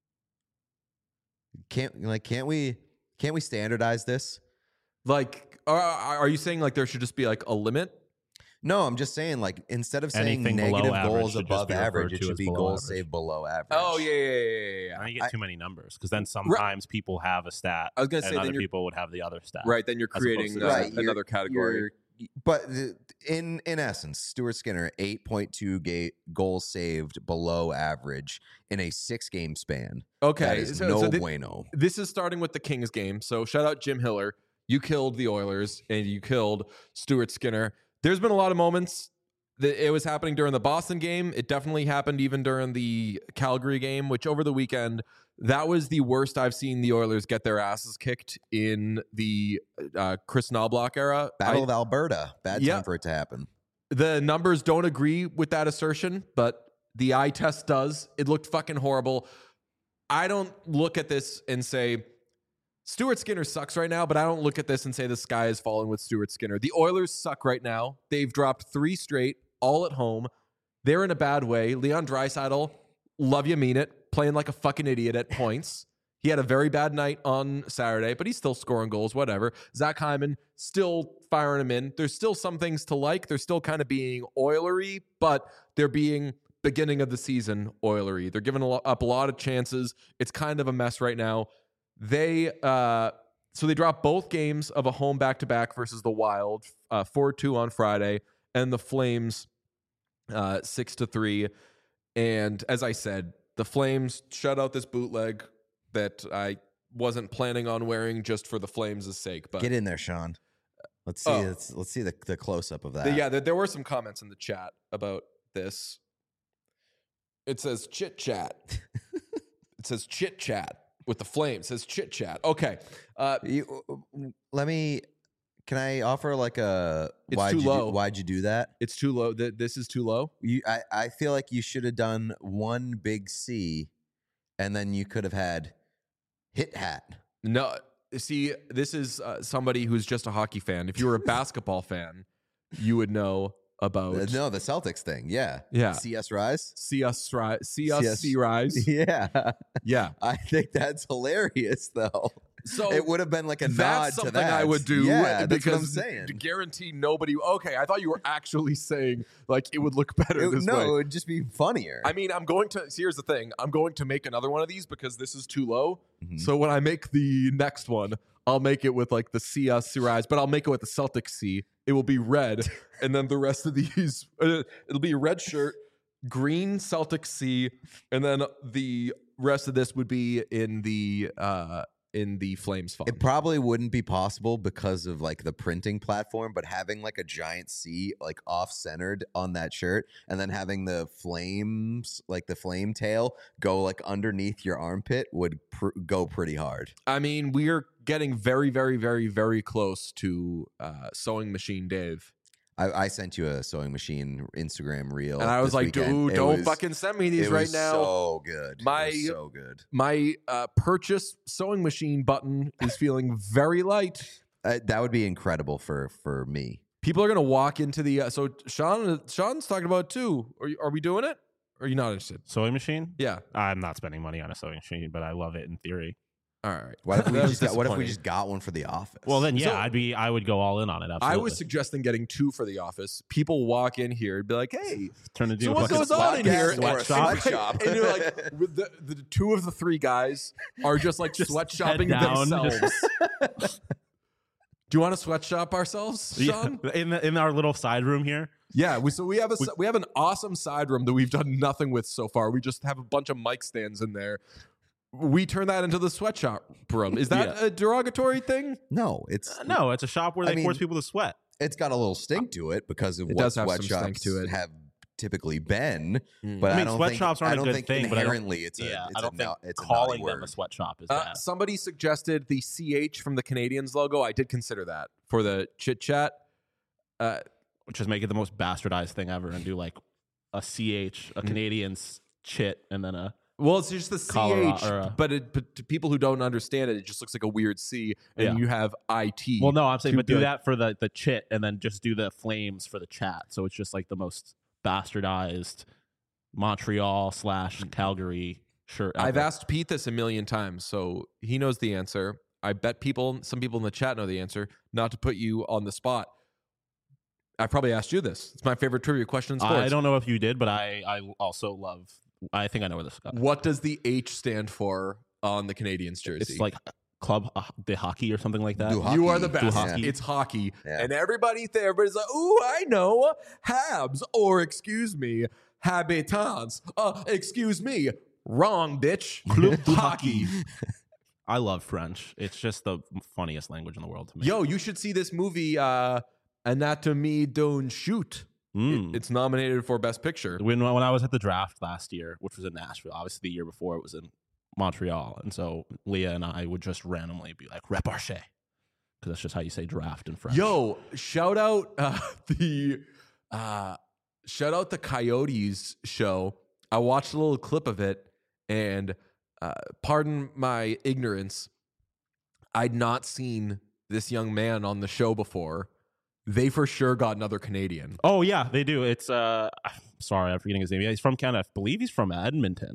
B: Can't like can't we can't we standardize this?
A: Like, are, are you saying like there should just be like a limit?
B: No, I'm just saying like instead of saying
C: Anything below
B: negative
C: average
B: goals
C: should just
B: above
C: be referred
B: average, it
C: to
B: should
C: as
B: be
C: below
B: goals
C: average.
B: saved below average.
A: Oh yeah, yeah, yeah, yeah, yeah.
C: Now you get
B: I-
C: too many numbers because then sometimes people have a stat.
A: I was gonna
C: and
A: say, then
C: other
A: you're-
C: people would have the other stat.
A: Right, then you're
C: As opposed
A: creating
C: to
A: uh,
C: just-
B: Right, you're-
A: another category.
B: You're- But the- in in essence, Stuart Skinner eight point two ga- goals saved below average in a six game span.
A: Okay,
B: That is
A: so,
B: no
A: so thi-
B: bueno.
A: this is starting with the Kings game. So shout out Jim Hiller. You killed the Oilers and you killed Stuart Skinner. There's been a lot of moments that it was happening during the Boston game. It definitely happened even during the Calgary game, which over the weekend, that was the worst I've seen the Oilers get their asses kicked in the uh, Chris Knobloch era.
B: Battle
A: I-
B: of Alberta. Bad
A: Yeah.
B: time for it to happen.
A: The numbers don't agree with that assertion, but the eye test does. It looked fucking horrible. I don't look at this and say, Stuart Skinner sucks right now, but I don't look at this and say the sky is falling with Stuart Skinner. The Oilers suck right now. They've dropped three straight, all at home. They're in a bad way. Leon Draisaitl, love you, mean it, playing like a fucking idiot at points. He had a very bad night on Saturday, but he's still scoring goals, whatever. Zach Hyman still firing him in. There's still some things to like. They're still kind of being Oilery, but they're being beginning of the season Oilery. They're giving a lo- up a lot of chances. It's kind of a mess right now. They uh, so they dropped both games of a home back-to-back versus the Wild, uh, four two on Friday, and the Flames uh, six to three. And as I said, the Flames shut out this bootleg that I wasn't planning on wearing just for the Flames' sake. But
B: Get in there, Sean. Let's see.
A: Oh.
B: Let's, let's see the, the close up of that.
A: the- yeah, there, there were some comments in the chat about this. It says chit chat. It says chit chat with the Flames. It says chit chat. Okay. Uh,
B: You, let me. Can I offer like a?
A: It's
B: why'd
A: too
B: you
A: low.
B: Do, why'd you do that?
A: it's too low. Th- This is too low.
B: You, I, I feel like you should have done one big C, and then you could have had hit hat.
A: No. See, this is uh, somebody who's just a hockey fan. If you were a basketball fan, you would know about
B: Uh, no, the Celtics thing. Yeah.
A: Yeah.
B: C S Rise.
A: see us rise, see us
B: C S
A: see rise.
B: Yeah.
A: Yeah.
B: I think that's hilarious, though.
A: So
B: It would have been like a nod
A: that's
B: to
A: something
B: that.
A: I would do.
B: Yeah, that's
A: because
B: what I'm saying.
A: to guarantee nobody. Okay, I thought you were actually saying like it would look better
B: It-
A: this
B: no,
A: way.
B: it would just be funnier.
A: I mean, I'm going to. Here's the thing. I'm going to make another one of these because this is too low.
B: Mhm.
A: So when I make the next one, I'll make it with like the C S C rise, but I'll make it with the Celtic C. It will be red, and then the rest of these, uh, it'll be a red shirt, green Celtic C, and then the rest of this would be in the uh in the Flames font.
B: It probably wouldn't be possible because of like the printing platform, but having like a giant C like off centered on that shirt and then having the flames, like the flame tail, go like underneath your armpit would pr- go pretty hard.
A: I mean, we're getting very, very, very, very close to uh, Sewing Machine Dave.
B: I, I sent you a sewing machine Instagram reel.
A: And I was
B: this
A: like,
B: weekend.
A: dude,
B: It
A: don't
B: was-
A: fucking send me these
B: it
A: right
B: was
A: now.
B: So good. It
A: My-
B: was so good.
A: My uh, purchase sewing machine button is feeling very light.
B: Uh, that would be incredible for for me.
A: People are gonna walk into the. Uh, so Sean, Sean's talking about it too. Are you, are we doing it? Or are you not interested?
C: Sewing machine?
A: Yeah.
C: I'm not spending money on a sewing machine, but I love it in theory.
A: All right.
B: What if we
A: That was
B: just got, what if we
A: disappointing.
B: just got one for the office?
C: Well, then yeah,
A: So-
C: I'd be I would go all in on it. Absolutely.
A: I was suggesting getting two for the office. People walk in here and be like, "Hey,
C: turn into
A: so
C: a
A: what
C: fucking
A: goes on in here?"
B: Or a
C: sweatshop.
B: sweatshop.
A: And you're like, with the, the two of the three guys are just like
C: Just
A: sweatshopping
C: head down,
A: themselves. Do you want to sweatshop ourselves, Sean?
C: Yeah, in the, in our little side room here.
A: Yeah, we, so we have a we, we have an awesome side room that we've done nothing with so far. We just have a bunch of mic stands in there. We turn that into the sweatshop room. Is that
C: Yeah.
A: a derogatory thing?
B: no, it's
C: Uh, no, it's a shop where
B: I
C: they
B: mean-
C: force people to sweat.
B: it's got a little stink to it because of
A: It
B: what
A: does have some
B: sweatshops
A: stink to it.
B: have typically been.
A: Mm.
B: But
C: I
B: I,
C: mean,
B: don't
C: sweatshops
B: think,
C: aren't
B: I
C: a
B: don't
C: good
B: think
C: thing, but I don't-
B: inherently it's a
C: yeah,
B: it's
C: I don't
B: a
C: think
B: no, it's a
C: calling
B: naughty
C: them a
B: word.
C: sweatshop is
A: Uh,
C: bad.
A: somebody suggested the C H from the Canadians logo. I did consider that for the chit chat. Uh,
C: Which is make it the most bastardized thing ever and do like a C H,
A: Mm.
C: a Canadian's chit, and then a
A: well, it's just the
C: Colorado-
A: C H,
C: or, uh,
A: but, it, but to people who don't understand it, it just looks like a weird C, and
C: Yeah.
A: you have I T.
C: well, no, I'm saying,
A: to
C: but
A: be
C: do
A: like-
C: that for the the chit, and then just do the flames for the chat. So it's just like the most bastardized Montreal slash Calgary shirt.
A: I've
C: ever.
A: asked Pete this a million times, so he knows the answer. I bet people, some people in the chat know the answer. Not to put you on the spot, I probably asked you this. It's my favorite trivia question in sports.
C: I don't know if you did, but I I also love. I think I know where this is going.
A: What does the H stand for on the Canadians jersey?
C: It's like club uh, de hockey or something like that.
B: Do hockey.
A: You are the best.
C: hockey.
A: It's hockey.
B: Yeah.
A: And everybody there, everybody's like, ooh, I know. Habs, or excuse me, Habitants. Uh, excuse me. Wrong, bitch.
C: Club de
A: hockey.
C: I love French. It's just the funniest language in the world to me.
A: Yo, you should see this movie, uh, Anatomy Don't Shoot.
C: Mm.
A: It- it's nominated for Best Picture.
C: when when I was at the draft last year, which was in Nashville, obviously the year before it was in Montreal, and so Leah and I would just randomly be like "reparche," because that's just how you say draft in French.
A: Yo, shout out uh, the uh, shout out the Coyotes show. I watched a little clip of it, and uh, pardon my ignorance, I'd not seen this young man on the show before. They for sure got another Canadian.
C: Oh yeah, they do. It's uh, I'm sorry, I'm forgetting his name. Yeah, he's from Canada. I believe he's from Edmonton.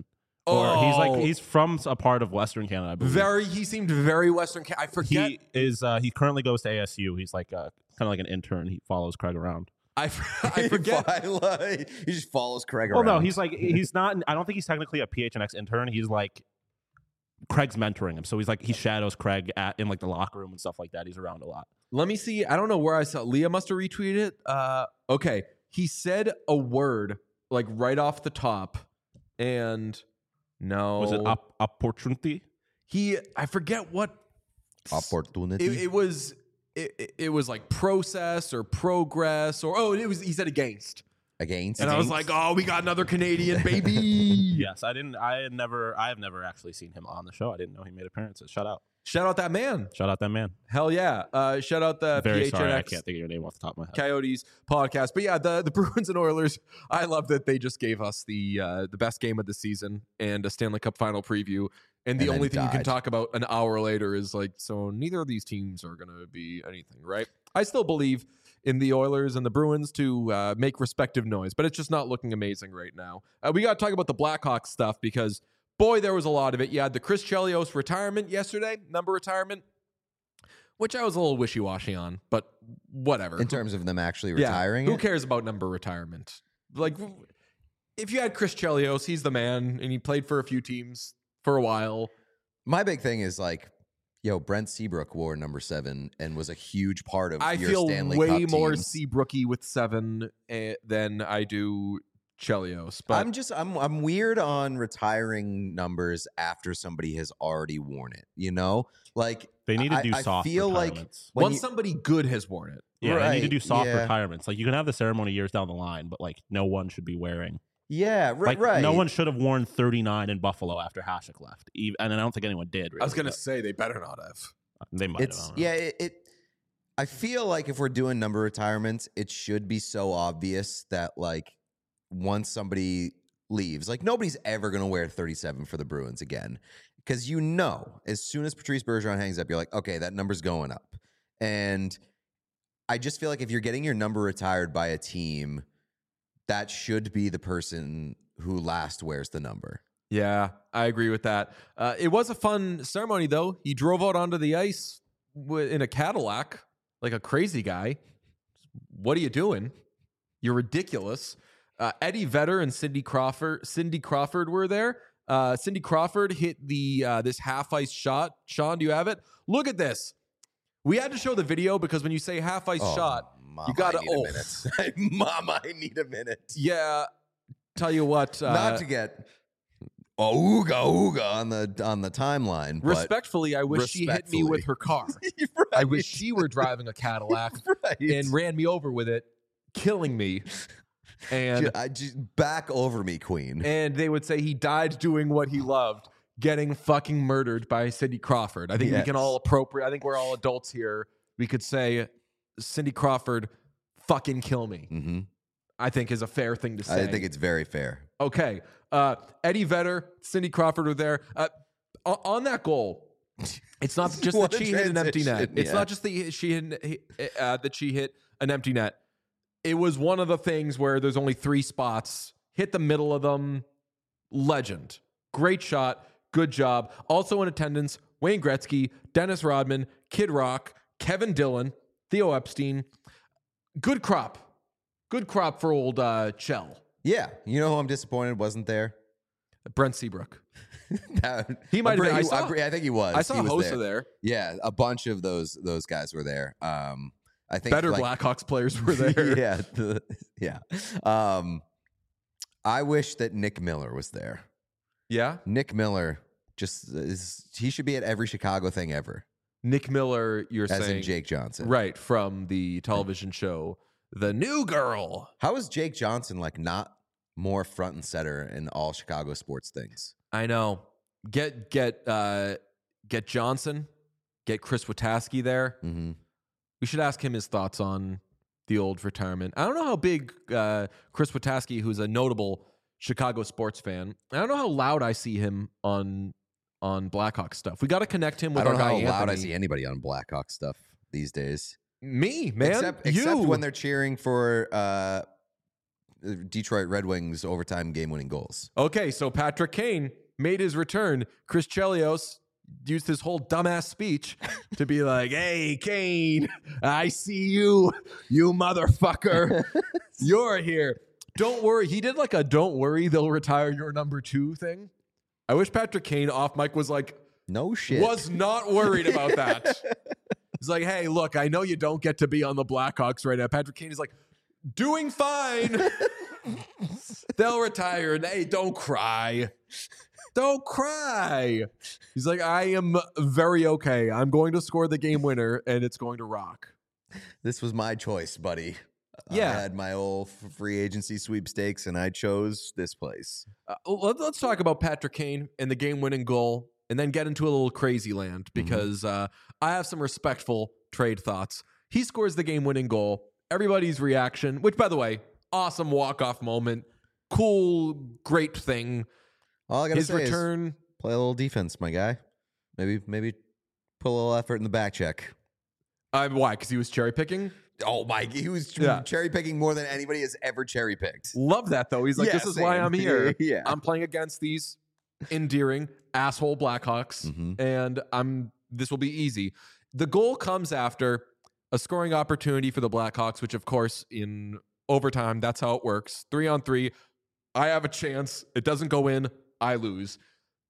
C: Or he's like
A: Oh.
C: he's from a part of Western Canada, I believe.
A: Very, he seemed very Western. Ca- I forget.
C: He is. Uh, he currently goes to A S U. He's like uh, kind of like an intern. He follows Craig around.
A: I, f- I forget.
B: he just follows Craig
C: Well,
B: around.
C: no, he's like he's not. I don't think he's technically a P H N X intern. He's like Craig's mentoring him, so he's like he shadows Craig at in like the locker room and stuff like that. He's around a lot.
A: Let me see. I don't know where I saw. Leah must have retweeted it. Uh, okay, he said a word like right off the top, and no,
C: Was it op- opportunity?
A: He, I forget what
B: opportunity.
A: it, it was. It, it, it was like process or progress or oh, it was. He said against,
B: Against.
A: and I was like, oh, we got another Canadian baby.
C: Yes, I didn't. I had never. I have never actually seen him on the show. I didn't know he made appearances. Shout out.
A: Shout out that man.
C: Shout out that man.
A: Hell yeah. Uh, shout out the
C: Very
A: P H N X
C: sorry, I can't think of your name off the top of my head.
A: Coyotes podcast. But yeah, the, the Bruins and Oilers, I love that they just gave us the uh, the best game of the season and a Stanley Cup final preview. And the
B: And then
A: only thing you can
B: died.
A: talk about an hour later is like, so neither of these teams are going to be anything, right? I still believe in the Oilers and the Bruins to uh, make respective noise, but it's just not looking amazing right now. Uh, we got to talk about the Blackhawks stuff because, boy, there was a lot of it. You had the Chris Chelios retirement yesterday, number retirement, which I was a little wishy-washy on, but whatever.
B: in terms of them actually
A: Yeah,
B: retiring.
A: who
B: it?
A: cares about number retirement? Like, if you had Chris Chelios, he's the man, and he played for a few teams for a while.
B: My big thing is like, yo, Brent Seabrook wore number seven and was a huge part of
A: I
B: your
A: feel
B: Stanley
A: way
B: Cup
A: more
B: teams.
A: Seabrooky with seven eh, than I do Chelios. But
B: I'm just I'm I'm weird on retiring numbers after somebody has already worn it. You know, like
C: They need to
B: I-
C: do
B: I
C: soft
B: feel like
C: retirements.
B: when
A: once
B: you-
A: somebody good has worn it,
C: Yeah, they need to
B: Right,
C: do soft
B: yeah.
C: retirements. Like you can have the ceremony years down the line, but like no one should be wearing.
B: yeah, right,
C: Like
B: right.
C: no one should have worn thirty-nine in Buffalo after Hasek left, Even, and I don't think anyone did. Really,
A: I was going to
C: but
A: say they better not have.
C: they might.
B: It's
C: have, I don't know.
B: yeah. It, it. I feel like if we're doing number retirements, it should be so obvious that like once somebody leaves, like nobody's ever gonna wear thirty-seven for the Bruins again, because you know as soon as Patrice Bergeron hangs up, you're like, okay, that number's going up. And I just feel like if you're getting your number retired by a team, that should be the person who last wears the number.
A: Yeah, I agree with that. Uh, it was a fun ceremony, though. He drove out onto the ice wi- in a Cadillac like a crazy guy. What are you doing? You're ridiculous. Uh, Eddie Vedder and Cindy Crawford. Cindy Crawford were there. Uh, Cindy Crawford hit the uh, this half ice shot. Sean, do you have it? Look at this. We had to show the video because when you say half ice
B: Oh,
A: shot,
B: Mama,
A: you gotta-
B: I need
A: oh.
B: a minute. Mama, I need a minute.
A: yeah. Tell you what, uh,
B: Not to get oh, ooga ooga on the on the timeline. But
A: respectfully, I wish she hit me with her car.
B: right,
A: I wish she were driving a Cadillac
B: right.
A: and ran me over with it, killing me. And
B: Ju- I just back over me, Queen.
A: and they would say he died doing what he loved, getting fucking murdered by Cindy Crawford. I think we
B: Yes.
A: can all appropriate. I think we're all adults here. We could say Cindy Crawford, fucking kill me.
B: hmm
A: I think is a fair thing to say.
B: I think it's very fair.
A: Okay. Uh, Eddie Vedder, Cindy Crawford were there. Uh, o- on that goal, it's not just
B: What
A: that
B: a
A: she hit an empty net.
B: transition,
A: It's
B: yeah.
A: not just that she hit, uh, that she hit an empty net. It was one of the things where there's only three spots. Hit the middle of them. Legend. Great shot. Good job. Also in attendance, Wayne Gretzky, Dennis Rodman, Kid Rock, Kevin Dillon, Theo Epstein. Good crop. Good crop for old uh, Chell.
B: Yeah, you know who I'm disappointed wasn't there.
A: Brent Seabrook.
B: That-
A: He might
B: I'm
A: have been- I
B: pretty-
A: saw-
B: I'm pretty- I think he was.
A: I saw
B: He was
A: Hossa there.
B: Yeah, a bunch of those those guys were there. Um, I think
A: Better
B: like,
A: Blackhawks players were there.
B: yeah, the, yeah. Um, I wish that Nick Miller was there.
A: Yeah?
B: Nick Miller just is. He should be at every Chicago thing ever.
A: Nick Miller, you're
B: As
A: saying.
B: in Jake Johnson.
A: Right, from the television show The New Girl.
B: How is Jake Johnson like not more front and center in all Chicago sports things?
A: I know. Get get uh get Johnson, get Chris Wataski there.
B: Mm-hmm.
A: We should ask him his thoughts on the old retirement. I don't know how big uh, Chris Wataski, who's a notable Chicago sports fan, I don't know how loud I see him on on Blackhawk stuff. We got to connect him with
B: I don't
A: our
B: know how
A: guy
B: loud I
A: Anthony.
B: see anybody on Blackhawk stuff these days.
A: Me, man.
B: except,
A: you.
B: except when they're cheering for uh, Detroit Red Wings overtime game-winning goals.
A: Okay, so Patrick Kane, made his return. Chris Chelios used his whole dumbass speech to be like, hey, Kane, I see you, you motherfucker. You're here. Don't worry. He did like a don't worry, they'll retire your number two thing. I wish Patrick Kane off mic was like,
B: no shit.
A: Was not worried about that. He's like, hey, look, I know you don't get to be on the Blackhawks right now. Patrick Kane is like, doing fine. They'll retire. And hey, don't cry. Don't cry. He's like, I am very okay. I'm going to score the game winner, and it's going to rock.
B: This was my choice, buddy.
A: Yeah.
B: I had my old free agency sweepstakes, and I chose this place.
A: Uh, let, let's talk about Patrick Kane and the game-winning goal, and then get into a little crazy land, because mm-hmm. uh, I have some respectful trade thoughts. He scores the game-winning goal. Everybody's reaction, which, by the way, awesome walk-off moment. Cool, great thing.
B: All I gotta
A: His
B: say
A: return,
B: is play a little defense, my guy. Maybe maybe put a little effort in the back check.
A: Uh, why? Because he was cherry-picking?
B: Oh, my. He was
A: Yeah.
B: cherry-picking more than anybody has ever cherry-picked.
A: Love that, though. He's like,
B: Yeah,
A: this is why
B: same.
A: I'm here.
B: Yeah.
A: I'm playing against these endearing asshole Blackhawks,
B: Mhm.
A: and I'm. This will be easy. The goal comes after a scoring opportunity for the Blackhawks, which, of course, in overtime, that's how it works. Three on three. I have a chance. It doesn't go in. I lose.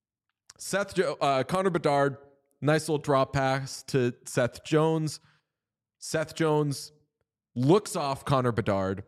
A: Seth, jo- uh, Connor Bedard, nice little drop pass to Seth Jones. Seth Jones looks off Connor Bedard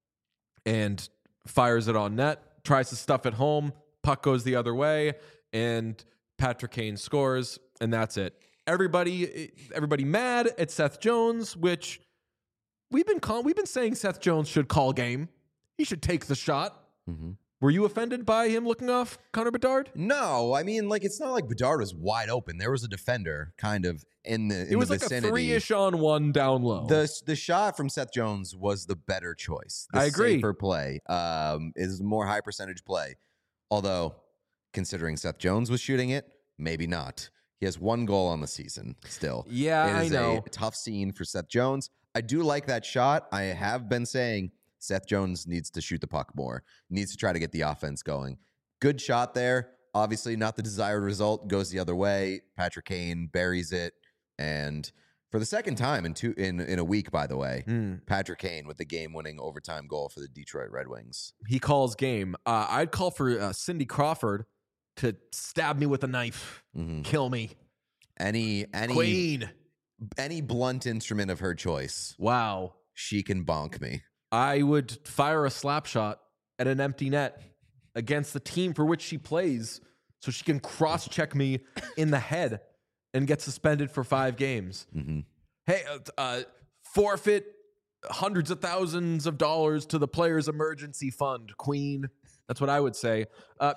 A: and fires it on net, tries to stuff it home. Puck goes the other way, and Patrick Kane scores, and that's it. Everybody, everybody mad at Seth Jones, which we've been call- we've been saying Seth Jones should call game. He should take the shot.
B: Mm-hmm.
A: Were you offended by him looking off Connor Bedard?
B: No, I mean, like, it's not like Bedard was wide open. There was a defender kind of in the in
A: It was
B: the
A: like
B: vicinity.
A: a three-ish on one down low.
B: The the shot from Seth Jones was the better choice. The
A: I agree.
B: Safer play um, is more high percentage play. Although, considering Seth Jones was shooting it, maybe not. He has one goal on the season still.
A: Yeah,
B: It
A: I
B: is
A: know.
B: a tough scene for Seth Jones. I do like that shot. I have been saying Seth Jones needs to shoot the puck more, needs to try to get the offense going. Good shot there. Obviously, not the desired result. Goes the other way. Patrick Kane buries it. And for the second time in two in, in a week, by the way,
A: Mm.
B: Patrick Kane with the game-winning overtime goal for the Detroit Red Wings.
A: He calls game. Uh, I'd call for uh, Cindy Crawford to stab me with a knife,
B: Mhm.
A: kill me.
B: Any any
A: Queen.
B: any blunt instrument of her choice,
A: Wow.
B: she can bonk me.
A: I would fire a slap shot at an empty net against the team for which she plays so she can cross-check me in the head and get suspended for five games.
B: Mm-hmm.
A: Hey, uh, uh, forfeit hundreds of thousands of dollars to the Players Emergency Fund, Queen. That's what I would say. Uh,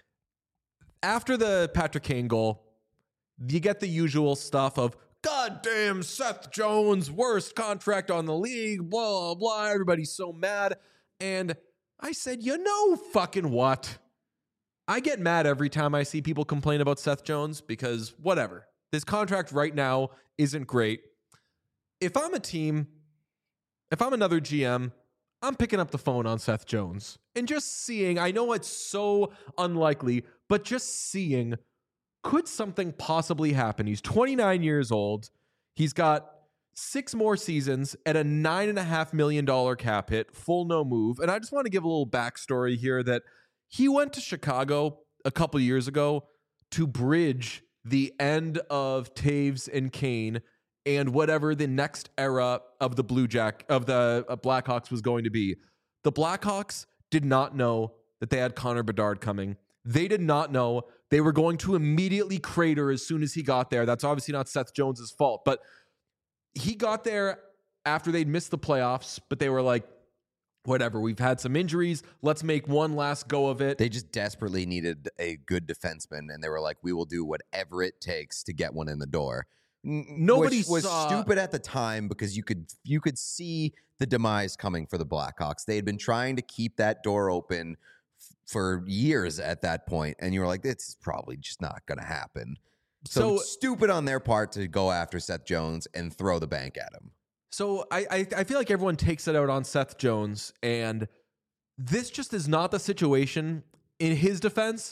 A: after the Patrick Kane goal, you get the usual stuff of, goddamn Seth Jones, worst contract on the league, blah, blah, blah. Everybody's so mad. And I said, you know fucking what? I get mad every time I see people complain about Seth Jones because whatever. This contract right now isn't great. If I'm a team, if I'm another G M, I'm picking up the phone on Seth Jones and just seeing, I know it's so unlikely, but just seeing, could something possibly happen? He's twenty-nine years old. He's got six more seasons at a nine and a half million dollar cap hit, full no move. And I just want to give a little backstory here that he went to Chicago a couple years ago to bridge the end of Taves and Kane and whatever the next era of the Blue Jack of the uh, Blackhawks was going to be. The Blackhawks did not know that they had Connor Bedard coming. They did not know they were going to immediately crater as soon as he got there. That's obviously not Seth Jones's fault, but he got there after they'd missed the playoffs, but they were like, whatever, we've had some injuries. Let's make one last go of it.
B: They just desperately needed a good defenseman, and they were like, we will do whatever it takes to get one in the door. N-
A: Nobody
B: which was
A: saw-
B: stupid at the time because you could you could see the demise coming for the Blackhawks. They had been trying to keep that door open f- for years at that point, and you were like, this is probably just not going to happen. So,
A: So-
B: stupid on their part to go after Seth Jones and throw the bank at him.
A: So I, I I feel like everyone takes it out on Seth Jones, and this just is not the situation. In his defense,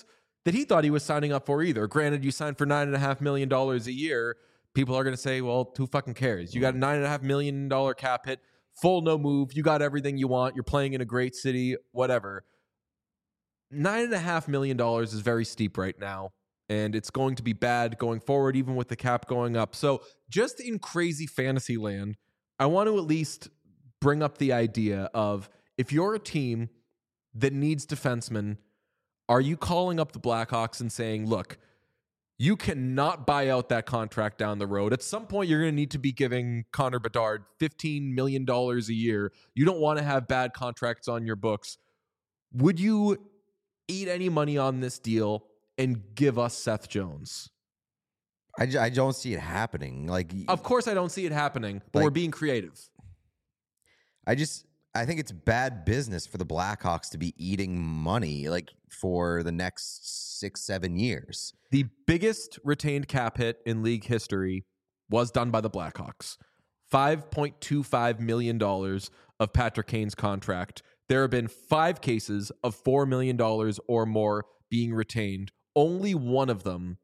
A: that he thought he was signing up for either. Granted, you signed for nine and a half million dollars a year. People are going to say, well, who fucking cares? You got a nine and a half million dollar cap hit, full no move. You got everything you want. You're playing in a great city, whatever. Nine and a half million dollars is very steep right now, and it's going to be bad going forward, even with the cap going up. So just in crazy fantasy land, I want to at least bring up the idea of, if you're a team that needs defensemen, are you calling up the Blackhawks and saying, look, you cannot buy out that contract down the road. At some point, you're going to need to be giving Connor Bedard fifteen million dollars a year. You don't want to have bad contracts on your books. Would you eat any money on this deal and give us Seth Jones?
B: I, j- I don't see it happening. Like,
A: Of course I don't see it happening, but
B: Like-
A: we're being creative.
B: I just I think it's bad business for the Blackhawks to be eating money like for the next six, seven years.
A: The biggest retained cap hit in league history was done by the Blackhawks. five point two five million dollars of Patrick Kane's contract. There have been five cases of four million dollars or more being retained. Only one of them,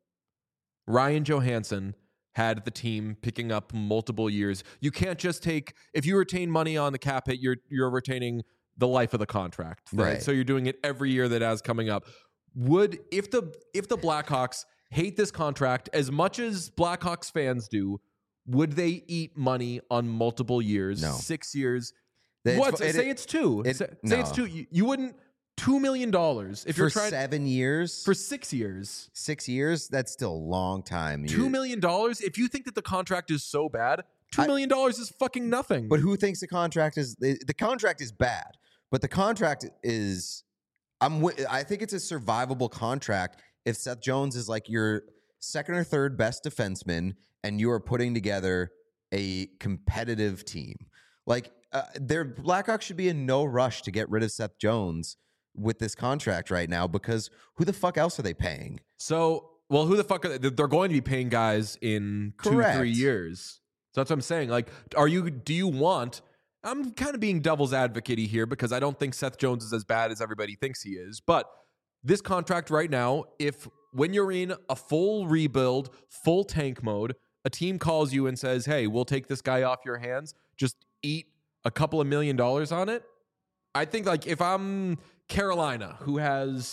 A: Ryan Johansson, had the team picking up multiple years. You can't just take, if you retain money on the cap hit, you're you're retaining the life of the contract. Right?
B: Right.
A: So you're doing it every year that has coming up. Would, if the if the Blackhawks hate this contract as much as Blackhawks fans do, would they eat money on multiple years?
B: No.
A: Six years?
B: It's-
A: What?
B: it-
A: say it's two.
B: it-
A: say say it's
B: no.
A: two. You, you wouldn't, two million dollars if
B: For
A: you're trying
B: seven years,
A: for six years.
B: six years, that's still a long time.
A: Two
B: You're-
A: million dollars. If you think that the contract is so bad, two
B: I-
A: million dollars is fucking nothing.
B: But who thinks the contract is the, the contract is bad? But the contract is, I'm. wi- I think it's a survivable contract if Seth Jones is like your second or third best defenseman, and you are putting together a competitive team. Like uh, their Blackhawks should be in no rush to get rid of Seth Jones with this contract right now, because who the fuck else are they paying?
A: So, well, who the fuck are they? They're going to be paying guys in two,
B: Correct.
A: three years. So that's what I'm saying. Like, are you? Do you want? I'm kind of being devil's advocate here because I don't think Seth Jones is as bad as everybody thinks he is. But this contract right now, if when you're in a full rebuild, full tank mode, a team calls you and says, "Hey, we'll take this guy off your hands. Just eat a couple of million dollars on it." I think, like, if I'm Carolina, who has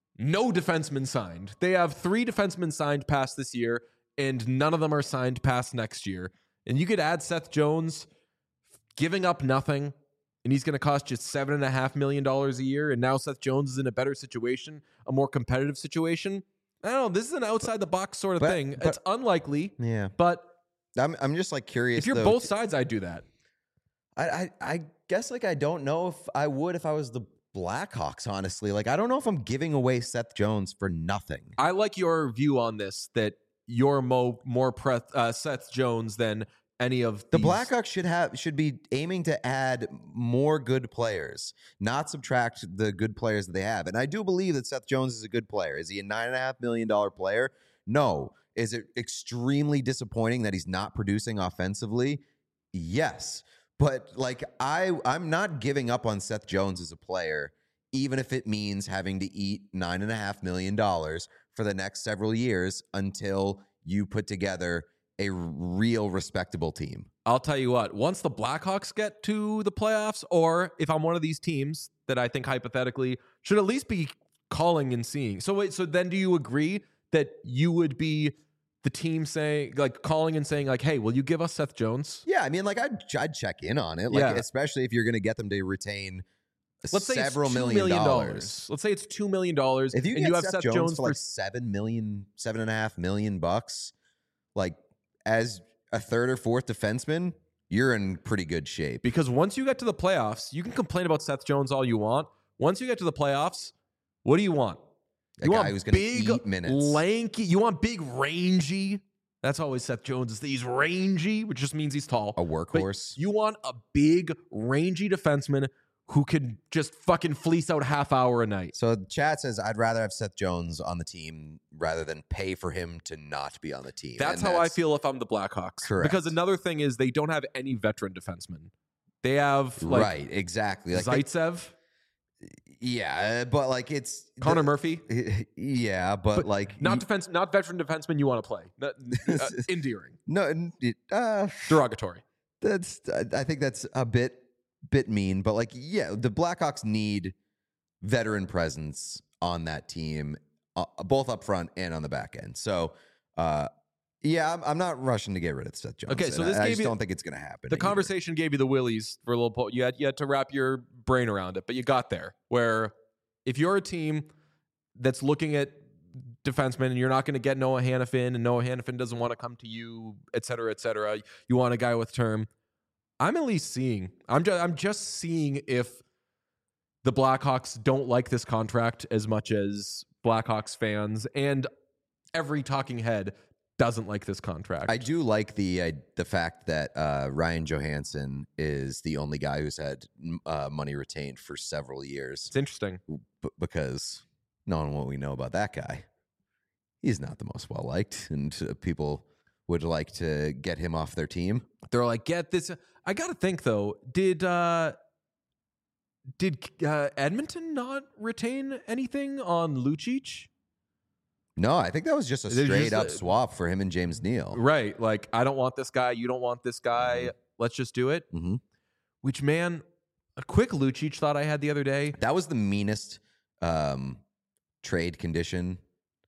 A: no defensemen signed, they have three defensemen signed past this year, and none of them are signed past next year. And you could add Seth Jones giving up nothing, and he's going to cost you seven and a half million dollars a year. And now Seth Jones is in a better situation, a more competitive situation. I don't know. This is an outside the box sort of
B: But-
A: thing.
B: but-
A: It's unlikely,
B: Yeah,
A: but
B: I'm. I'm just like curious.
A: if you're
B: though,
A: both sides, I'd do that.
B: I, I I guess like I don't know if I would if I was the Blackhawks, honestly. Like I don't know if I'm giving away Seth Jones for nothing.
A: I like your view on this, that you're mo- more pre- uh, Seth Jones than any of
B: The
A: these.
B: Blackhawks should have should be aiming to add more good players, not subtract the good players that they have. And I do believe that Seth Jones is a good player. Is he a nine and a half million dollar player? No. Is it extremely disappointing that he's not producing offensively? Yes. But like I I'm not giving up on Seth Jones as a player, even if it means having to eat nine and a half million dollars for the next several years until you put together a real respectable team.
A: I'll tell you what, once the Blackhawks get to the playoffs, or if I'm one of these teams that I think hypothetically should at least be calling and seeing. So wait, so then do you agree that you would be the team saying, like, calling and saying, like, hey, will you give us Seth Jones?
B: Yeah, I mean, like I'd, I'd check in on it, like
A: Yeah.
B: especially if you're going to get them to retain
A: Let's say
B: several
A: it's two
B: million
A: million
B: dollars.
A: Let's say it's two million dollars.
B: If you
A: and
B: get
A: you have
B: Seth,
A: Seth
B: Jones,
A: Jones
B: for like seven million, seven and a half million bucks, like as a third or fourth defenseman, you're in pretty good shape.
A: because once you get to the playoffs, you can complain about Seth Jones all you want. Once you get to the playoffs, what do you want?
B: A
A: You
B: guy
A: want
B: who's going to
A: big,
B: eat minutes.
A: lanky. You want big, rangy. That's always Seth Jones. Is he's rangy, which just means he's tall.
B: a
A: But
B: workhorse.
A: you want a big, rangy defenseman who could just fucking fleece out half hour a night.
B: So chat says I'd rather have Seth Jones on the team rather than pay for him to not be on the team.
A: That's
B: And
A: how I feel if I'm the Blackhawks.
B: Correct.
A: Because another thing is they don't have any veteran defensemen. They have like
B: right, exactly. Like they-
A: Zaitsev.
B: Yeah, but like it's
A: Connor
B: the-
A: Murphy,
B: Yeah, but,
A: But
B: like
A: not
B: you-
A: defense, not veteran defenseman you want to play. Not, uh, endearing,
B: no, n- it- uh,
A: derogatory.
B: that's I think that's a bit bit mean, but like yeah, the Blackhawks need veteran presence on that team, uh, both up front and on the back end. So, uh, yeah, I'm, I'm not rushing to get rid of Seth Johnson.
A: Okay, so this
B: I, I
A: gave
B: just
A: you-
B: don't think it's going to happen.
A: The
B: either.
A: conversation gave you the willies for a little. Po- you had you had to wrap your brain around it, but you got there. Where if you're a team that's looking at defensemen and you're not going to get Noah Hannafin, and Noah Hannafin doesn't want to come to you, et cetera, et cetera. You want a guy with term. I'm at least seeing. I'm just. I'm just seeing if the Blackhawks don't like this contract as much as Blackhawks fans and every talking head doesn't like this contract.
B: I do like the uh, the fact that uh, Ryan Johansson is the only guy who's had uh, money retained for several years.
A: It's interesting.
B: B- because knowing what we know about that guy, he's not the most well liked, and uh, people would like to get him off their team.
A: They're like, get this. I got to think though. Did uh, did uh, Edmonton not retain anything on Lucic?
B: No, I think that was just a
A: They're
B: straight
A: just,
B: up
A: uh,
B: swap for him and James Neal.
A: Right. Like, I don't want this guy. You don't want this guy. Let's just do it.
B: Mm-hmm.
A: Which, man, a quick Lucic thought I had the other day.
B: That was the meanest um, trade condition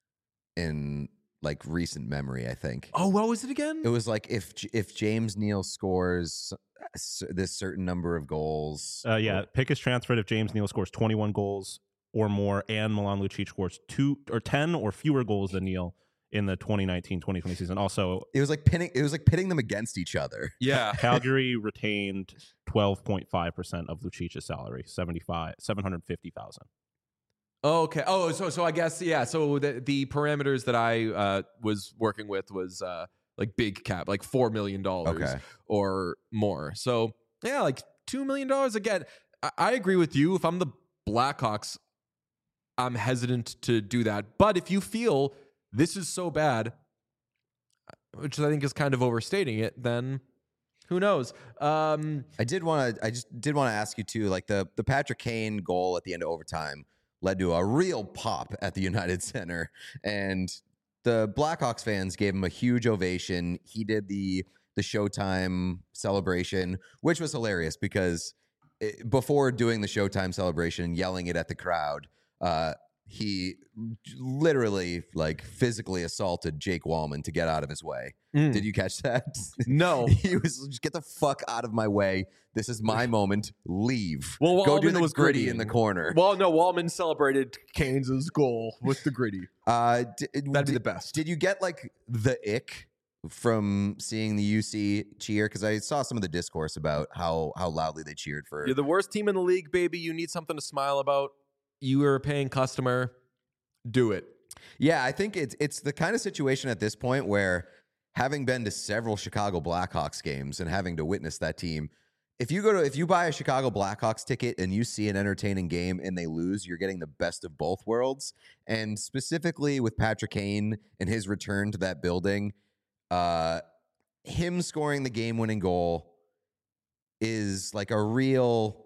B: in like recent memory. I think.
A: Oh, what was it again?
B: It was like if J- if James Neal scores s- this certain number of goals.
C: Uh, yeah, pick is transferred if James Neal scores twenty-one goals or more, and Milan Lucic scores two or ten or fewer goals than Neal in the twenty nineteen twenty twenty season. Also,
B: It was like pinning. It was like pitting them against each other.
A: yeah.
C: Calgary retained twelve point five percent of Lucic's salary, seventy-five seven hundred fifty thousand.
A: Oh, okay. Oh, so so I guess yeah. So the the parameters that I uh, was working with was uh, like big cap, like four million dollars
B: Okay.
A: or more. So yeah, like two million dollars again. I, I agree with you. If I'm the Blackhawks, I'm hesitant to do that. But if you feel this is so bad, which I think is kind of overstating it, then who knows? Um,
B: I did want to. I just did want to ask you too. Like the the Patrick Kane goal at the end of overtime led to a real pop at the United Center, and the Blackhawks fans gave him a huge ovation. He did the the Showtime celebration, which was hilarious because it, before doing the Showtime celebration and yelling it at the crowd, uh, he literally like physically assaulted Jake Wallman to get out of his way.
A: mm,
B: Did you catch that?
A: no.
B: He was just get the fuck out of my way. This is my moment. Leave.
A: Well,
B: Go do
A: Wallman
B: the
A: was
B: gritty in the
A: grittying.
B: corner.
A: Well, no. Wallman celebrated Keynes' goal with the gritty.
B: Uh, d-
A: That'd be
B: did,
A: the best.
B: Did you get like the ick from seeing the U C cheer? Because I saw some of the discourse about how how loudly they cheered for.
A: You're the worst team in the league, baby. You need something to smile about. You are a paying customer. Do it.
B: Yeah, I think it's it's the kind of situation at this point where, having been to several Chicago Blackhawks games and having to witness that team, if you go to if you buy a Chicago Blackhawks ticket and you see an entertaining game and they lose, you're getting the best of both worlds. And specifically with Patrick Kane and his return to that building, uh, him scoring the game-winning goal is like a real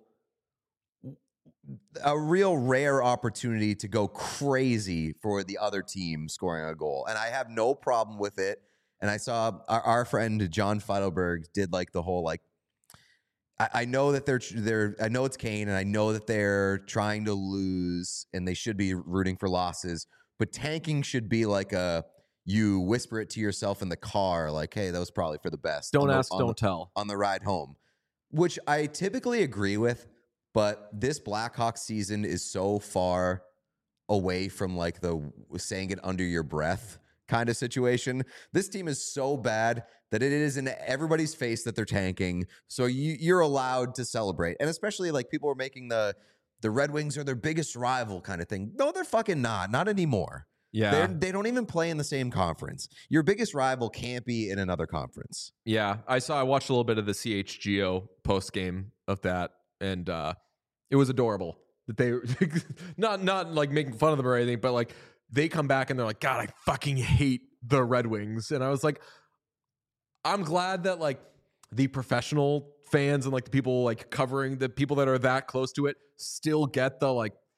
B: a real rare opportunity to go crazy for the other team scoring a goal. And I have no problem with it. And I saw our, our friend John Feidelberg did like the whole like, I, I know that they're they're I know it's Kane and I know that they're trying to lose and they should be rooting for losses, but tanking should be like a you whisper it to yourself in the car, like, hey, that was probably for the best.
A: Don't
B: on the-
A: ask,
B: on
A: don't
B: the-
A: tell.
B: on the ride home, which I typically agree with. But this Blackhawks season is so far away from like the saying it under your breath kind of situation. This team is so bad that it is in everybody's face that they're tanking. So you, you're allowed to celebrate. And especially like people are making the the Red Wings are their biggest rival kind of thing. No, they're fucking not. Not anymore.
A: Yeah.
B: They're, they don't even play in the same conference. Your biggest rival can't be in another conference.
A: Yeah. I saw, I watched a little bit of the C H G O post game of that. And uh, it was adorable that they, not, not like making fun of them or anything, but like they come back and they're like, God, I fucking hate the Red Wings. And I was like, I'm glad that like the professional fans and like the people like covering the people that are that close to it still get the like,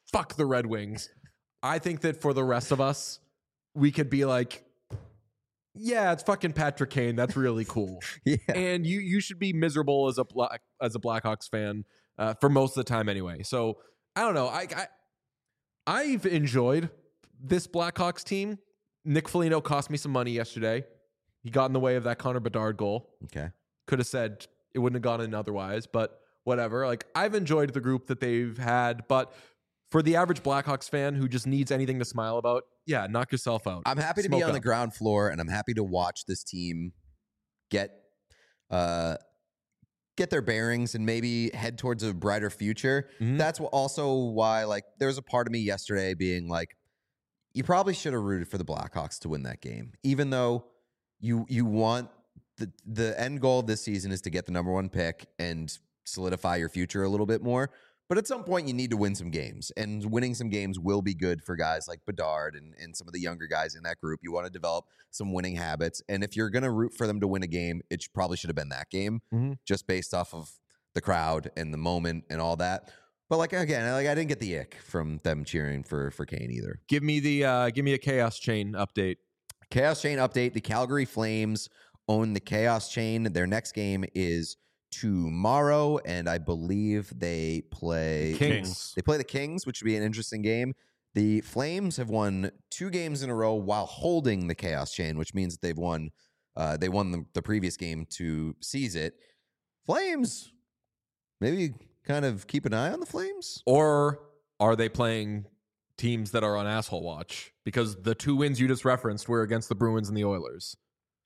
A: fuck the Red Wings. I think that for the rest of us, we could be like, yeah, it's fucking Patrick Kane. That's really cool.
B: Yeah.
A: And you you should be miserable as a black as a Blackhawks fan uh, for most of the time anyway. So I don't know. I, I I've enjoyed this Blackhawks team. Nick Foligno cost me some money yesterday. He got in the way of that Connor Bedard goal.
B: Okay.
A: Could have said it wouldn't have gone in otherwise, but whatever. Like, I've enjoyed the group that they've had, but for the average Blackhawks fan who just needs anything to smile about, yeah, knock yourself out.
B: I'm happy to
A: Smoke
B: be on
A: up.
B: the ground floor, and I'm happy to watch this team get uh, get their bearings and maybe head towards a brighter future.
A: Mhm.
B: That's wh- also why, like, there was a part of me yesterday being like, you probably should have rooted for the Blackhawks to win that game, even though you you want the the end goal of this season is to get the number one pick and solidify your future a little bit more. But at some point, you need to win some games, and winning some games will be good for guys like Bedard and, and some of the younger guys in that group. You want to develop some winning habits, and if you're going to root for them to win a game, it sh- probably should have been that game,
A: Mhm.
B: just based off of the crowd and the moment and all that. But like again, like I didn't get the ick from them cheering for for Kane either.
A: Give me the uh, give me a Chaos Chain update.
B: Chaos Chain update: the Calgary Flames own the Chaos Chain. Their next game is tomorrow, and I believe they play
A: Kings.
B: They play the Kings, which would be an interesting game. The Flames have won two games in a row while holding the Chaos Chain, which means that they've won. Uh, they won the, the previous game to seize it. Flames, maybe kind of keep an eye on the Flames.
A: Or are they playing teams that are on asshole watch? Because the two wins you just referenced were against the Bruins and the Oilers.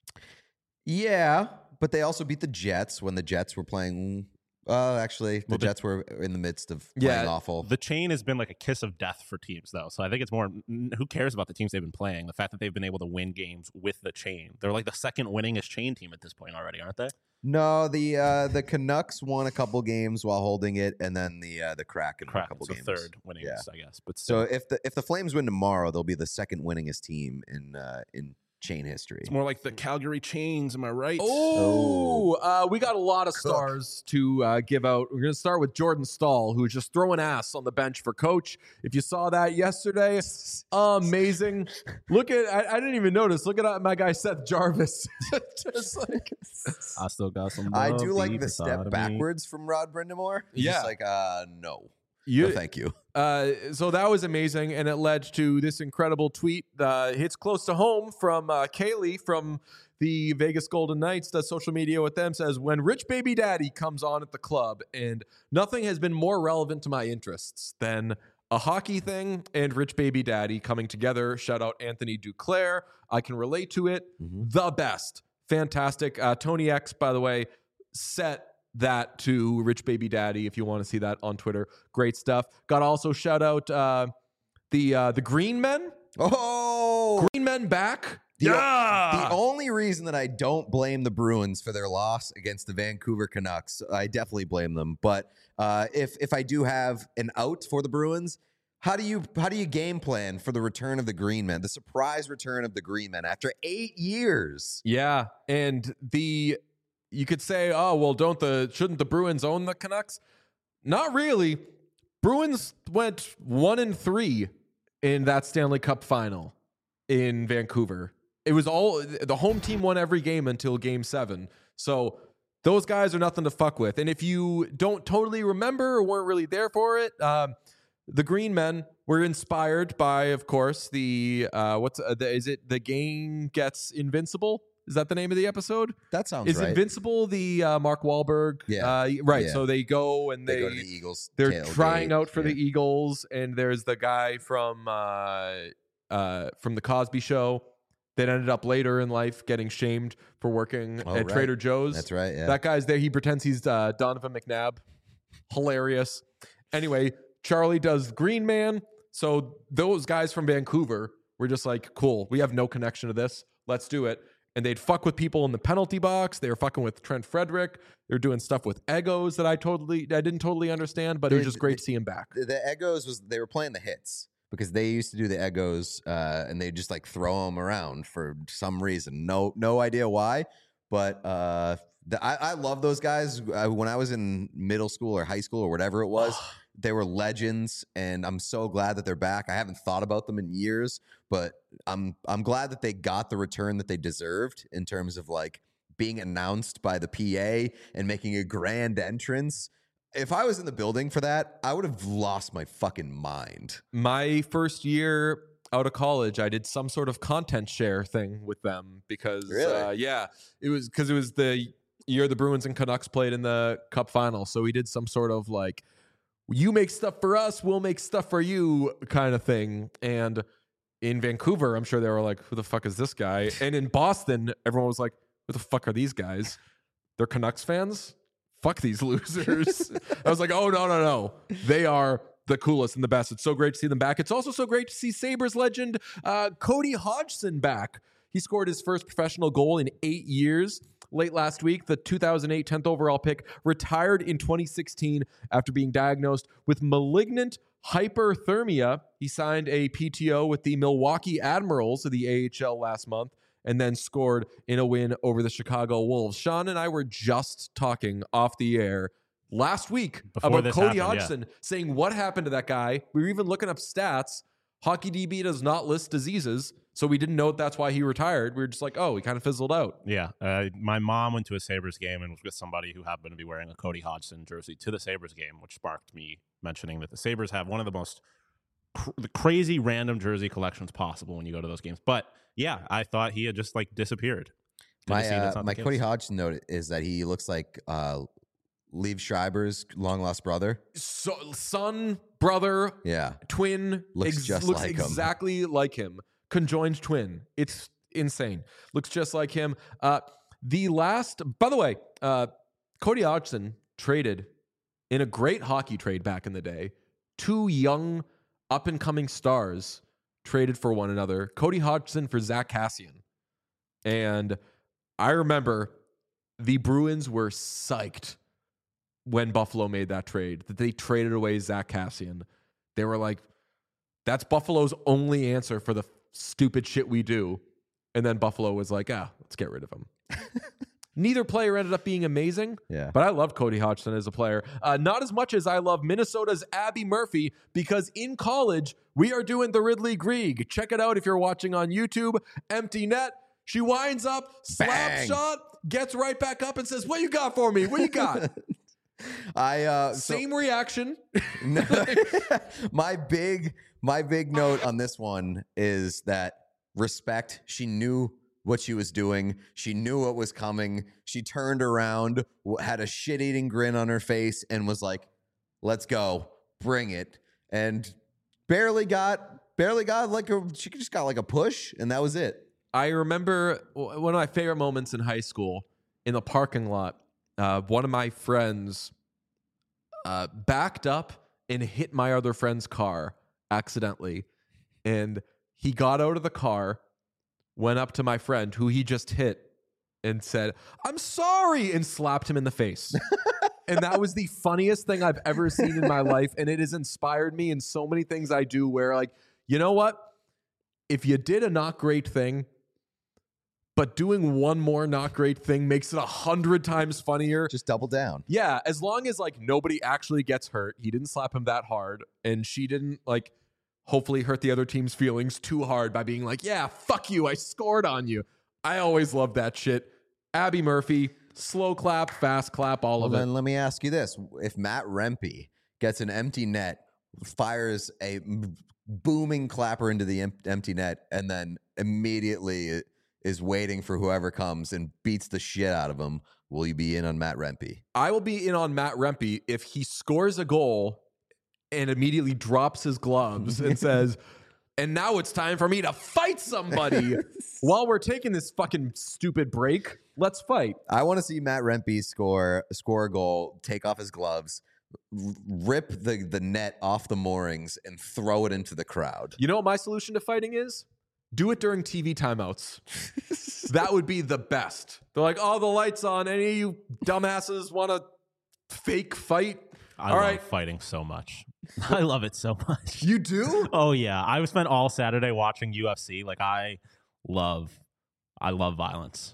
B: Yeah, but they also beat the Jets when the Jets were playing. Uh, actually, the
C: Well, the-
B: Jets were in the midst of playing
A: Yeah,
B: awful.
C: The chain has been like a kiss of death for teams, though. So I think it's more, n- who cares about the teams they've been playing? The fact that they've been able to win games with the chain. They're like the second winningest chain team at this point already, aren't they?
B: No, the uh, the Canucks won a couple games while holding it, and then the uh, the Kraken won a
C: Crap,
B: couple
C: so
B: games.
C: third winningest,
B: Yeah.
C: I guess. But
B: So
C: still,
B: if the if the Flames win tomorrow, they'll be the second winningest team in uh, in chain history.
C: it's more like the Calgary Chains. Am I right?
A: Oh, uh, we got a lot of stars to uh, give out. We're going to start with Jordan Stahl, who's just throwing ass on the bench for coach. If you saw that yesterday, amazing. Look at, I, I didn't even notice. Look at uh, my guy Seth Jarvis. Just like,
C: I still got some.
B: I
C: love
B: do like
C: deep
B: the
C: inside
B: step
C: of me.
B: backwards from Rod Brindamore. He's
A: Yeah.
B: just like uh no,
A: you,
B: no, thank you.
A: Uh, so that was amazing, and it led to this incredible tweet. Uh, hits close to home from uh, Kaylee from the Vegas Golden Knights. Does social media with them, says, when Rich Baby Daddy comes on at the club, and nothing has been more relevant to my interests than a hockey thing and Rich Baby Daddy coming together. Shout out Anthony Duclair. I can relate to it.
B: Mhm.
A: The best. Fantastic. Uh, Tony X, by the way, set that to Rich Baby Daddy if you want to see that on Twitter. Great stuff. Got to also shout out uh, the uh, the Green Men.
B: Oh,
A: Green Men back.
B: The o-
A: yeah.
B: The only reason that I don't blame the Bruins for their loss against the Vancouver Canucks, I definitely blame them. But uh, if if I do have an out for the Bruins, how do you how do you game plan for the return of the Green Men, the surprise return of the Green Men after eight years?
A: Yeah, and the you could say, oh well, don't the shouldn't the Bruins own the Canucks? Not really. Bruins went one and three in that Stanley Cup final in Vancouver. It was all the home team won every game until game seven. So those guys are nothing to fuck with. And if you don't totally remember or weren't really there for it, um, the Green Men were inspired by, of course, the uh, what's uh, the, is it the game gets invincible? Is that the name of the episode?
B: That sounds
A: Is
B: right.
A: Invincible the uh, Mark Wahlberg?
B: Yeah.
A: Uh, right.
B: Yeah.
A: So they go and
B: they,
A: they,
B: go to the Eagles.
A: they're
B: tailgate.
A: trying out for
B: Yeah.
A: the Eagles, and there's the guy from uh, uh, from the Cosby Show that ended up later in life getting shamed for working
B: Oh,
A: at
B: right.
A: Trader Joe's.
B: That's right. Yeah.
A: That guy's there. He pretends he's uh, Donovan McNabb. Hilarious. Anyway, Charlie does Green Man. So those guys from Vancouver were just like, cool, we have no connection to this. Let's do it. And they'd fuck with people in the penalty box. They were fucking with Trent Frederick. They were doing stuff with egos that I totally, I didn't totally understand, but it was
B: The-
A: just great
B: the-
A: to see him back.
B: the, the Egos was they were playing the hits because they used to do the Egos uh, and they just like throw them around for some reason. No, no idea why, but uh, the, I, I love those guys. I, when I was in middle school or high school or whatever it was, they were legends, and I'm so glad that they're back. I haven't thought about them in years, but I'm I'm glad that they got the return that they deserved in terms of like being announced by the P A and making a grand entrance. If I was in the building for that, I would have lost my fucking mind.
A: My first year out of college, I did some sort of content share thing with them because,
B: Really?
A: uh, yeah, it was because it was the year the Bruins and Canucks played in the Cup final. So we did some sort of like, you make stuff for us, we'll make stuff for you kind of thing. And in Vancouver, I'm sure they were like, who the fuck is this guy? And in Boston, everyone was like, who the fuck are these guys? They're Canucks fans? Fuck these losers. I was like, oh, no, no, no. They are the coolest and the best. It's so great to see them back. It's also so great to see Sabres legend uh, Cody Hodgson back. He scored his first professional goal in eight years. Late last week, the two thousand eight tenth overall pick retired in twenty sixteen after being diagnosed with malignant hyperthermia. He signed a P T O with the Milwaukee Admirals of the A H L last month and then scored in a win over the Chicago Wolves. Sean and I were just talking off the air last week
C: Before
A: about
C: this
A: Cody
C: happened,
A: Hodgson, saying what happened to that guy. We were even looking up stats. Hockey D B does not list diseases, so we didn't know that's why he retired. We were just like, oh, he kind of fizzled out.
C: Yeah. Uh, my mom went to a Sabres game and was with somebody who happened to be wearing a Cody Hodgson jersey to the Sabres game, which sparked me mentioning that the Sabres have one of the most cr- the crazy random jersey collections possible when you go to those games. But yeah, I thought he had just like disappeared. Good to
B: My
C: see that's
B: uh,
C: not
B: my
C: the case.
B: Cody Hodgson note is that he looks like uh, Liev Schreiber's long lost brother.
A: So, son, brother,
B: Yeah,
A: twin,
B: Looks just
A: looks
B: like him.
A: exactly like him. Conjoined twin. It's insane. Looks just like him. Uh, the last, by the way, uh, Cody Hodgson traded in a great hockey trade back in the day. Two young, up and coming stars traded for one another. Cody Hodgson for Zach Kassian. And I remember the Bruins were psyched when Buffalo made that trade, that they traded away Zach Kassian. They were like, that's Buffalo's only answer for the stupid shit we do. And then Buffalo was like, ah, let's get rid of him. Neither player ended up being amazing,
B: yeah.
A: but I love Cody Hodgson as a player. Uh, not as much as I love Minnesota's Abby Murphy, because in college, we are doing the Ridley Grieg. Check it out if you're watching on YouTube. Empty net. She winds up, slap
B: Bang.
A: shot, gets right back up and says, what you got for me? What you got?
B: I uh, so-
A: Same reaction.
B: No, my big my big note on this one is that respect. She knew what she was doing. She knew what was coming. She turned around, w- had a shit-eating grin on her face, and was like, "Let's go, bring it." And barely got barely got like a she just got like a push, and that was it.
A: I remember w- one of my favorite moments in high school in the parking lot. Uh, one of my friends uh, backed up and hit my other friend's car accidentally. And he got out of the car, went up to my friend who he just hit and said, I'm sorry, and slapped him in the face. And that was the funniest thing I've ever seen in my life. And it has inspired me in so many things I do where, like, you know what? If you did a not great thing, but doing one more not great thing makes it a hundred times funnier.
B: Just double down.
A: Yeah, as long as like nobody actually gets hurt. He didn't slap him that hard, and she didn't like hopefully hurt the other team's feelings too hard by being like, yeah, fuck you, I scored on you. I always love that shit. Abby Murphy, slow clap, fast clap, all
B: Well,
A: of
B: then
A: it.
B: let me ask you this. If Matt Rempe gets an empty net, fires a m- booming clapper into the em- empty net, and then immediately is waiting for whoever comes and beats the shit out of him, will you be in on Matt Rempe?
A: I will be in on Matt Rempe if he scores a goal and immediately drops his gloves and says, and now it's time for me to fight somebody. While we're taking this fucking stupid break, let's fight.
B: I want to see Matt Rempe score score a goal, take off his gloves, r- rip the, the net off the moorings, and throw it into the crowd.
A: You know what my solution to fighting is? Do it during T V timeouts. That would be the best. They're like, oh, the light's on. Any of you dumbasses want to fake fight?
C: I
A: All
C: love
A: right.
C: fighting so much. I love it so much.
A: You do?
C: Oh yeah, I spent all Saturday watching U F C. Like I love, I love violence.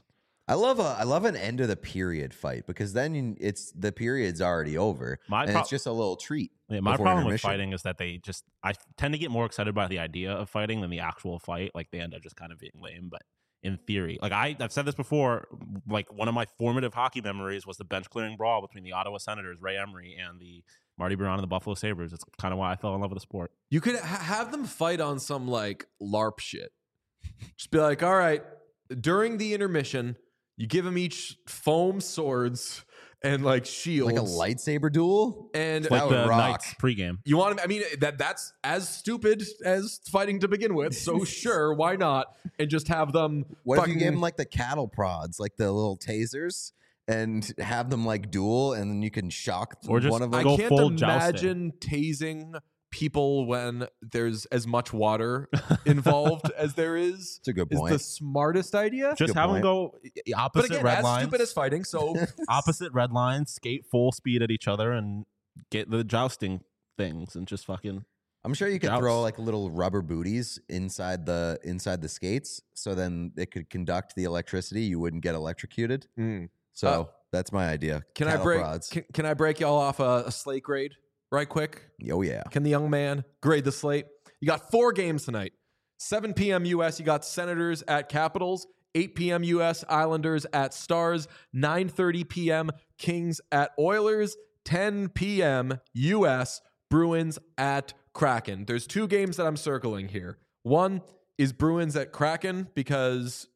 B: I love a I love an end of the period fight because then it's the period's already over
C: My
B: and
C: pro-
B: it's just a little treat.
C: Yeah, my
B: before
C: problem with
B: intermission.
C: fighting is that they just I tend to get more excited by the idea of fighting than the actual fight. Like they end up just kind of being lame. But in theory, like I, I've said this before, like one of my formative hockey memories was the bench clearing brawl between the Ottawa Senators, Ray Emery, and the Marty Biron and the Buffalo Sabres. It's kind of why I fell in love with the sport.
A: You could ha- have them fight on some like LARP shit. Just be like, all right, during the intermission, you give them each foam swords and like shields,
B: Like a lightsaber duel?
A: and
C: It's like
B: That would
C: the
B: rock.
C: Knights pregame.
A: you want to. I mean, that that's as stupid as fighting to begin with. So sure, why not? And just have them.
B: What if
A: fucking,
B: you gave them like the cattle prods, like the little tasers, and have them like duel, and then you can shock
C: Or just
B: one of
A: I
B: them?
C: go
A: can't
C: full
A: imagine tasing people when there's as much water involved as there is.
B: That's a good
A: Is
B: point.
A: the smartest idea.
C: Just
B: good
C: have them
B: point.
C: go
A: But
C: opposite
A: again,
C: red
A: as
C: lines.
A: stupid as fighting. So
C: opposite red lines, skate full speed at each other, and get the jousting things, and just fucking.
B: I'm sure you could
C: Joust.
B: throw like little rubber booties inside the inside the skates, so then it could conduct the electricity. You wouldn't get electrocuted. So
A: Uh,
B: that's my idea.
A: can I
B: Cattle
A: break?
B: prods.
A: Can, can I break y'all off a, a slate grade right quick?
B: Oh yeah.
A: Can the young man grade the slate? You got four games tonight. seven p.m. U S. You got Senators at Capitals. eight p.m. U S. Islanders at Stars. nine thirty p.m. Kings at Oilers. ten p.m. U S. Bruins at Kraken. There's two games that I'm circling here. One is Bruins at Kraken because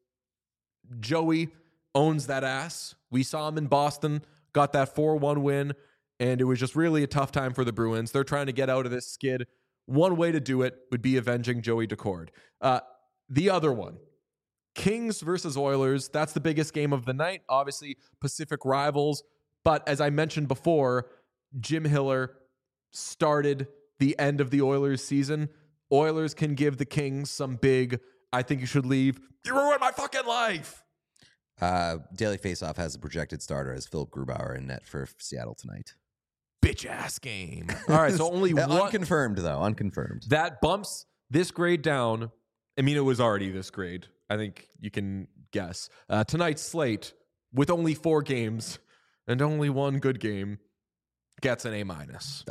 A: Joey owns that ass. We saw him in Boston, got that four one win, and it was just really a tough time for the Bruins. They're trying to get out of this skid. One way to do it would be avenging Joey Decord. Uh, the other one, Kings versus Oilers. That's the biggest game of the night. Obviously, Pacific rivals. But as I mentioned before, Jim Hiller started the end of the Oilers season. Oilers can give the Kings some big, I think you should leave. You ruined my fucking life.
B: Uh, Daily Faceoff has a projected starter as Philip Grubauer in net for Seattle tonight.
A: Bitch ass game. All right, so only
B: Uh,
A: one.
B: Unconfirmed though. Unconfirmed.
A: That bumps this grade down. I mean, it was already this grade. I think you can guess. Uh, tonight's slate, with only four games and only one good game, gets an A minus.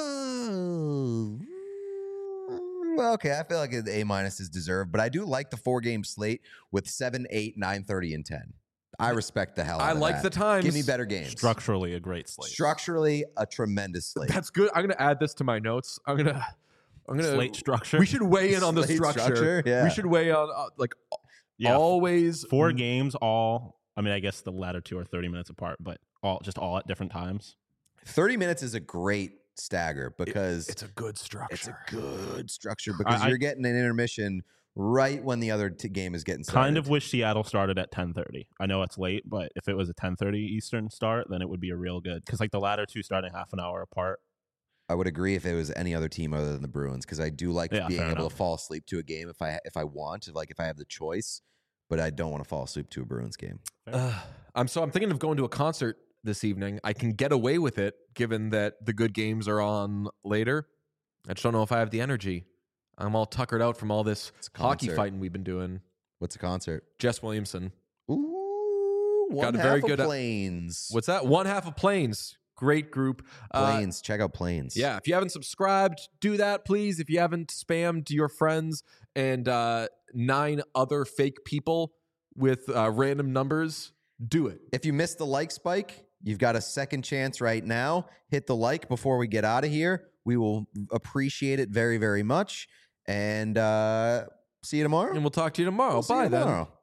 B: Oh. Well, okay. I feel like an A minus is deserved, but I do like the four game slate with seven, eight, nine, thirty, and ten. I respect the hell out
A: I
B: of
A: like
B: that.
A: the times.
B: Give me better games.
C: Structurally, a great slate.
B: Structurally, a tremendous slate.
A: That's good. I'm gonna add this to my notes. I'm gonna. I'm gonna.
C: Slate structure.
A: We should weigh in on the
B: Slate
A: structure.
B: structure, yeah.
A: We should weigh on uh, like
C: yeah,
A: always
C: four games, all. I mean, I guess the latter two are thirty minutes apart, but all just all at different times.
B: thirty minutes is a great stagger because
A: It's a good structure.
B: it's a good structure because
C: I-
B: you're getting an intermission right when the other t- game is getting started.
C: Kind of wish Seattle started at ten thirty. I know it's late, but if it was a ten thirty Eastern start, then it would be a real good. Because like the latter two starting half an hour apart.
B: I would agree if it was any other team other than the Bruins because I do like
C: Yeah,
B: being
C: fair
B: able
C: enough.
B: to fall asleep to a game if I if I want, like if I have the choice, but I don't want to fall asleep to a Bruins game.
A: Uh, I'm so I'm thinking of going to a concert this evening. I can get away with it given that the good games are on later. I just don't know if I have the energy. I'm all tuckered out from all this
B: It's a
A: hockey
B: concert.
A: fighting we've been doing.
B: What's a concert?
A: Jess Williamson.
B: Ooh, one
A: Got a
B: half
A: very
B: of
A: good, uh,
B: Planes.
A: What's that? One half of Planes. Great group. Uh,
B: Planes? Check out Planes.
A: Yeah, if you haven't subscribed, do that, please. If you haven't spammed your friends and uh, nine other fake people with uh, random numbers, do it.
B: If you missed the like spike, you've got a second chance right now. Hit the like before we get out of here. We will appreciate it very, very much. And uh, see you tomorrow.
A: And we'll talk to you tomorrow.
B: We'll see
A: Bye
B: you
A: then.
B: tomorrow.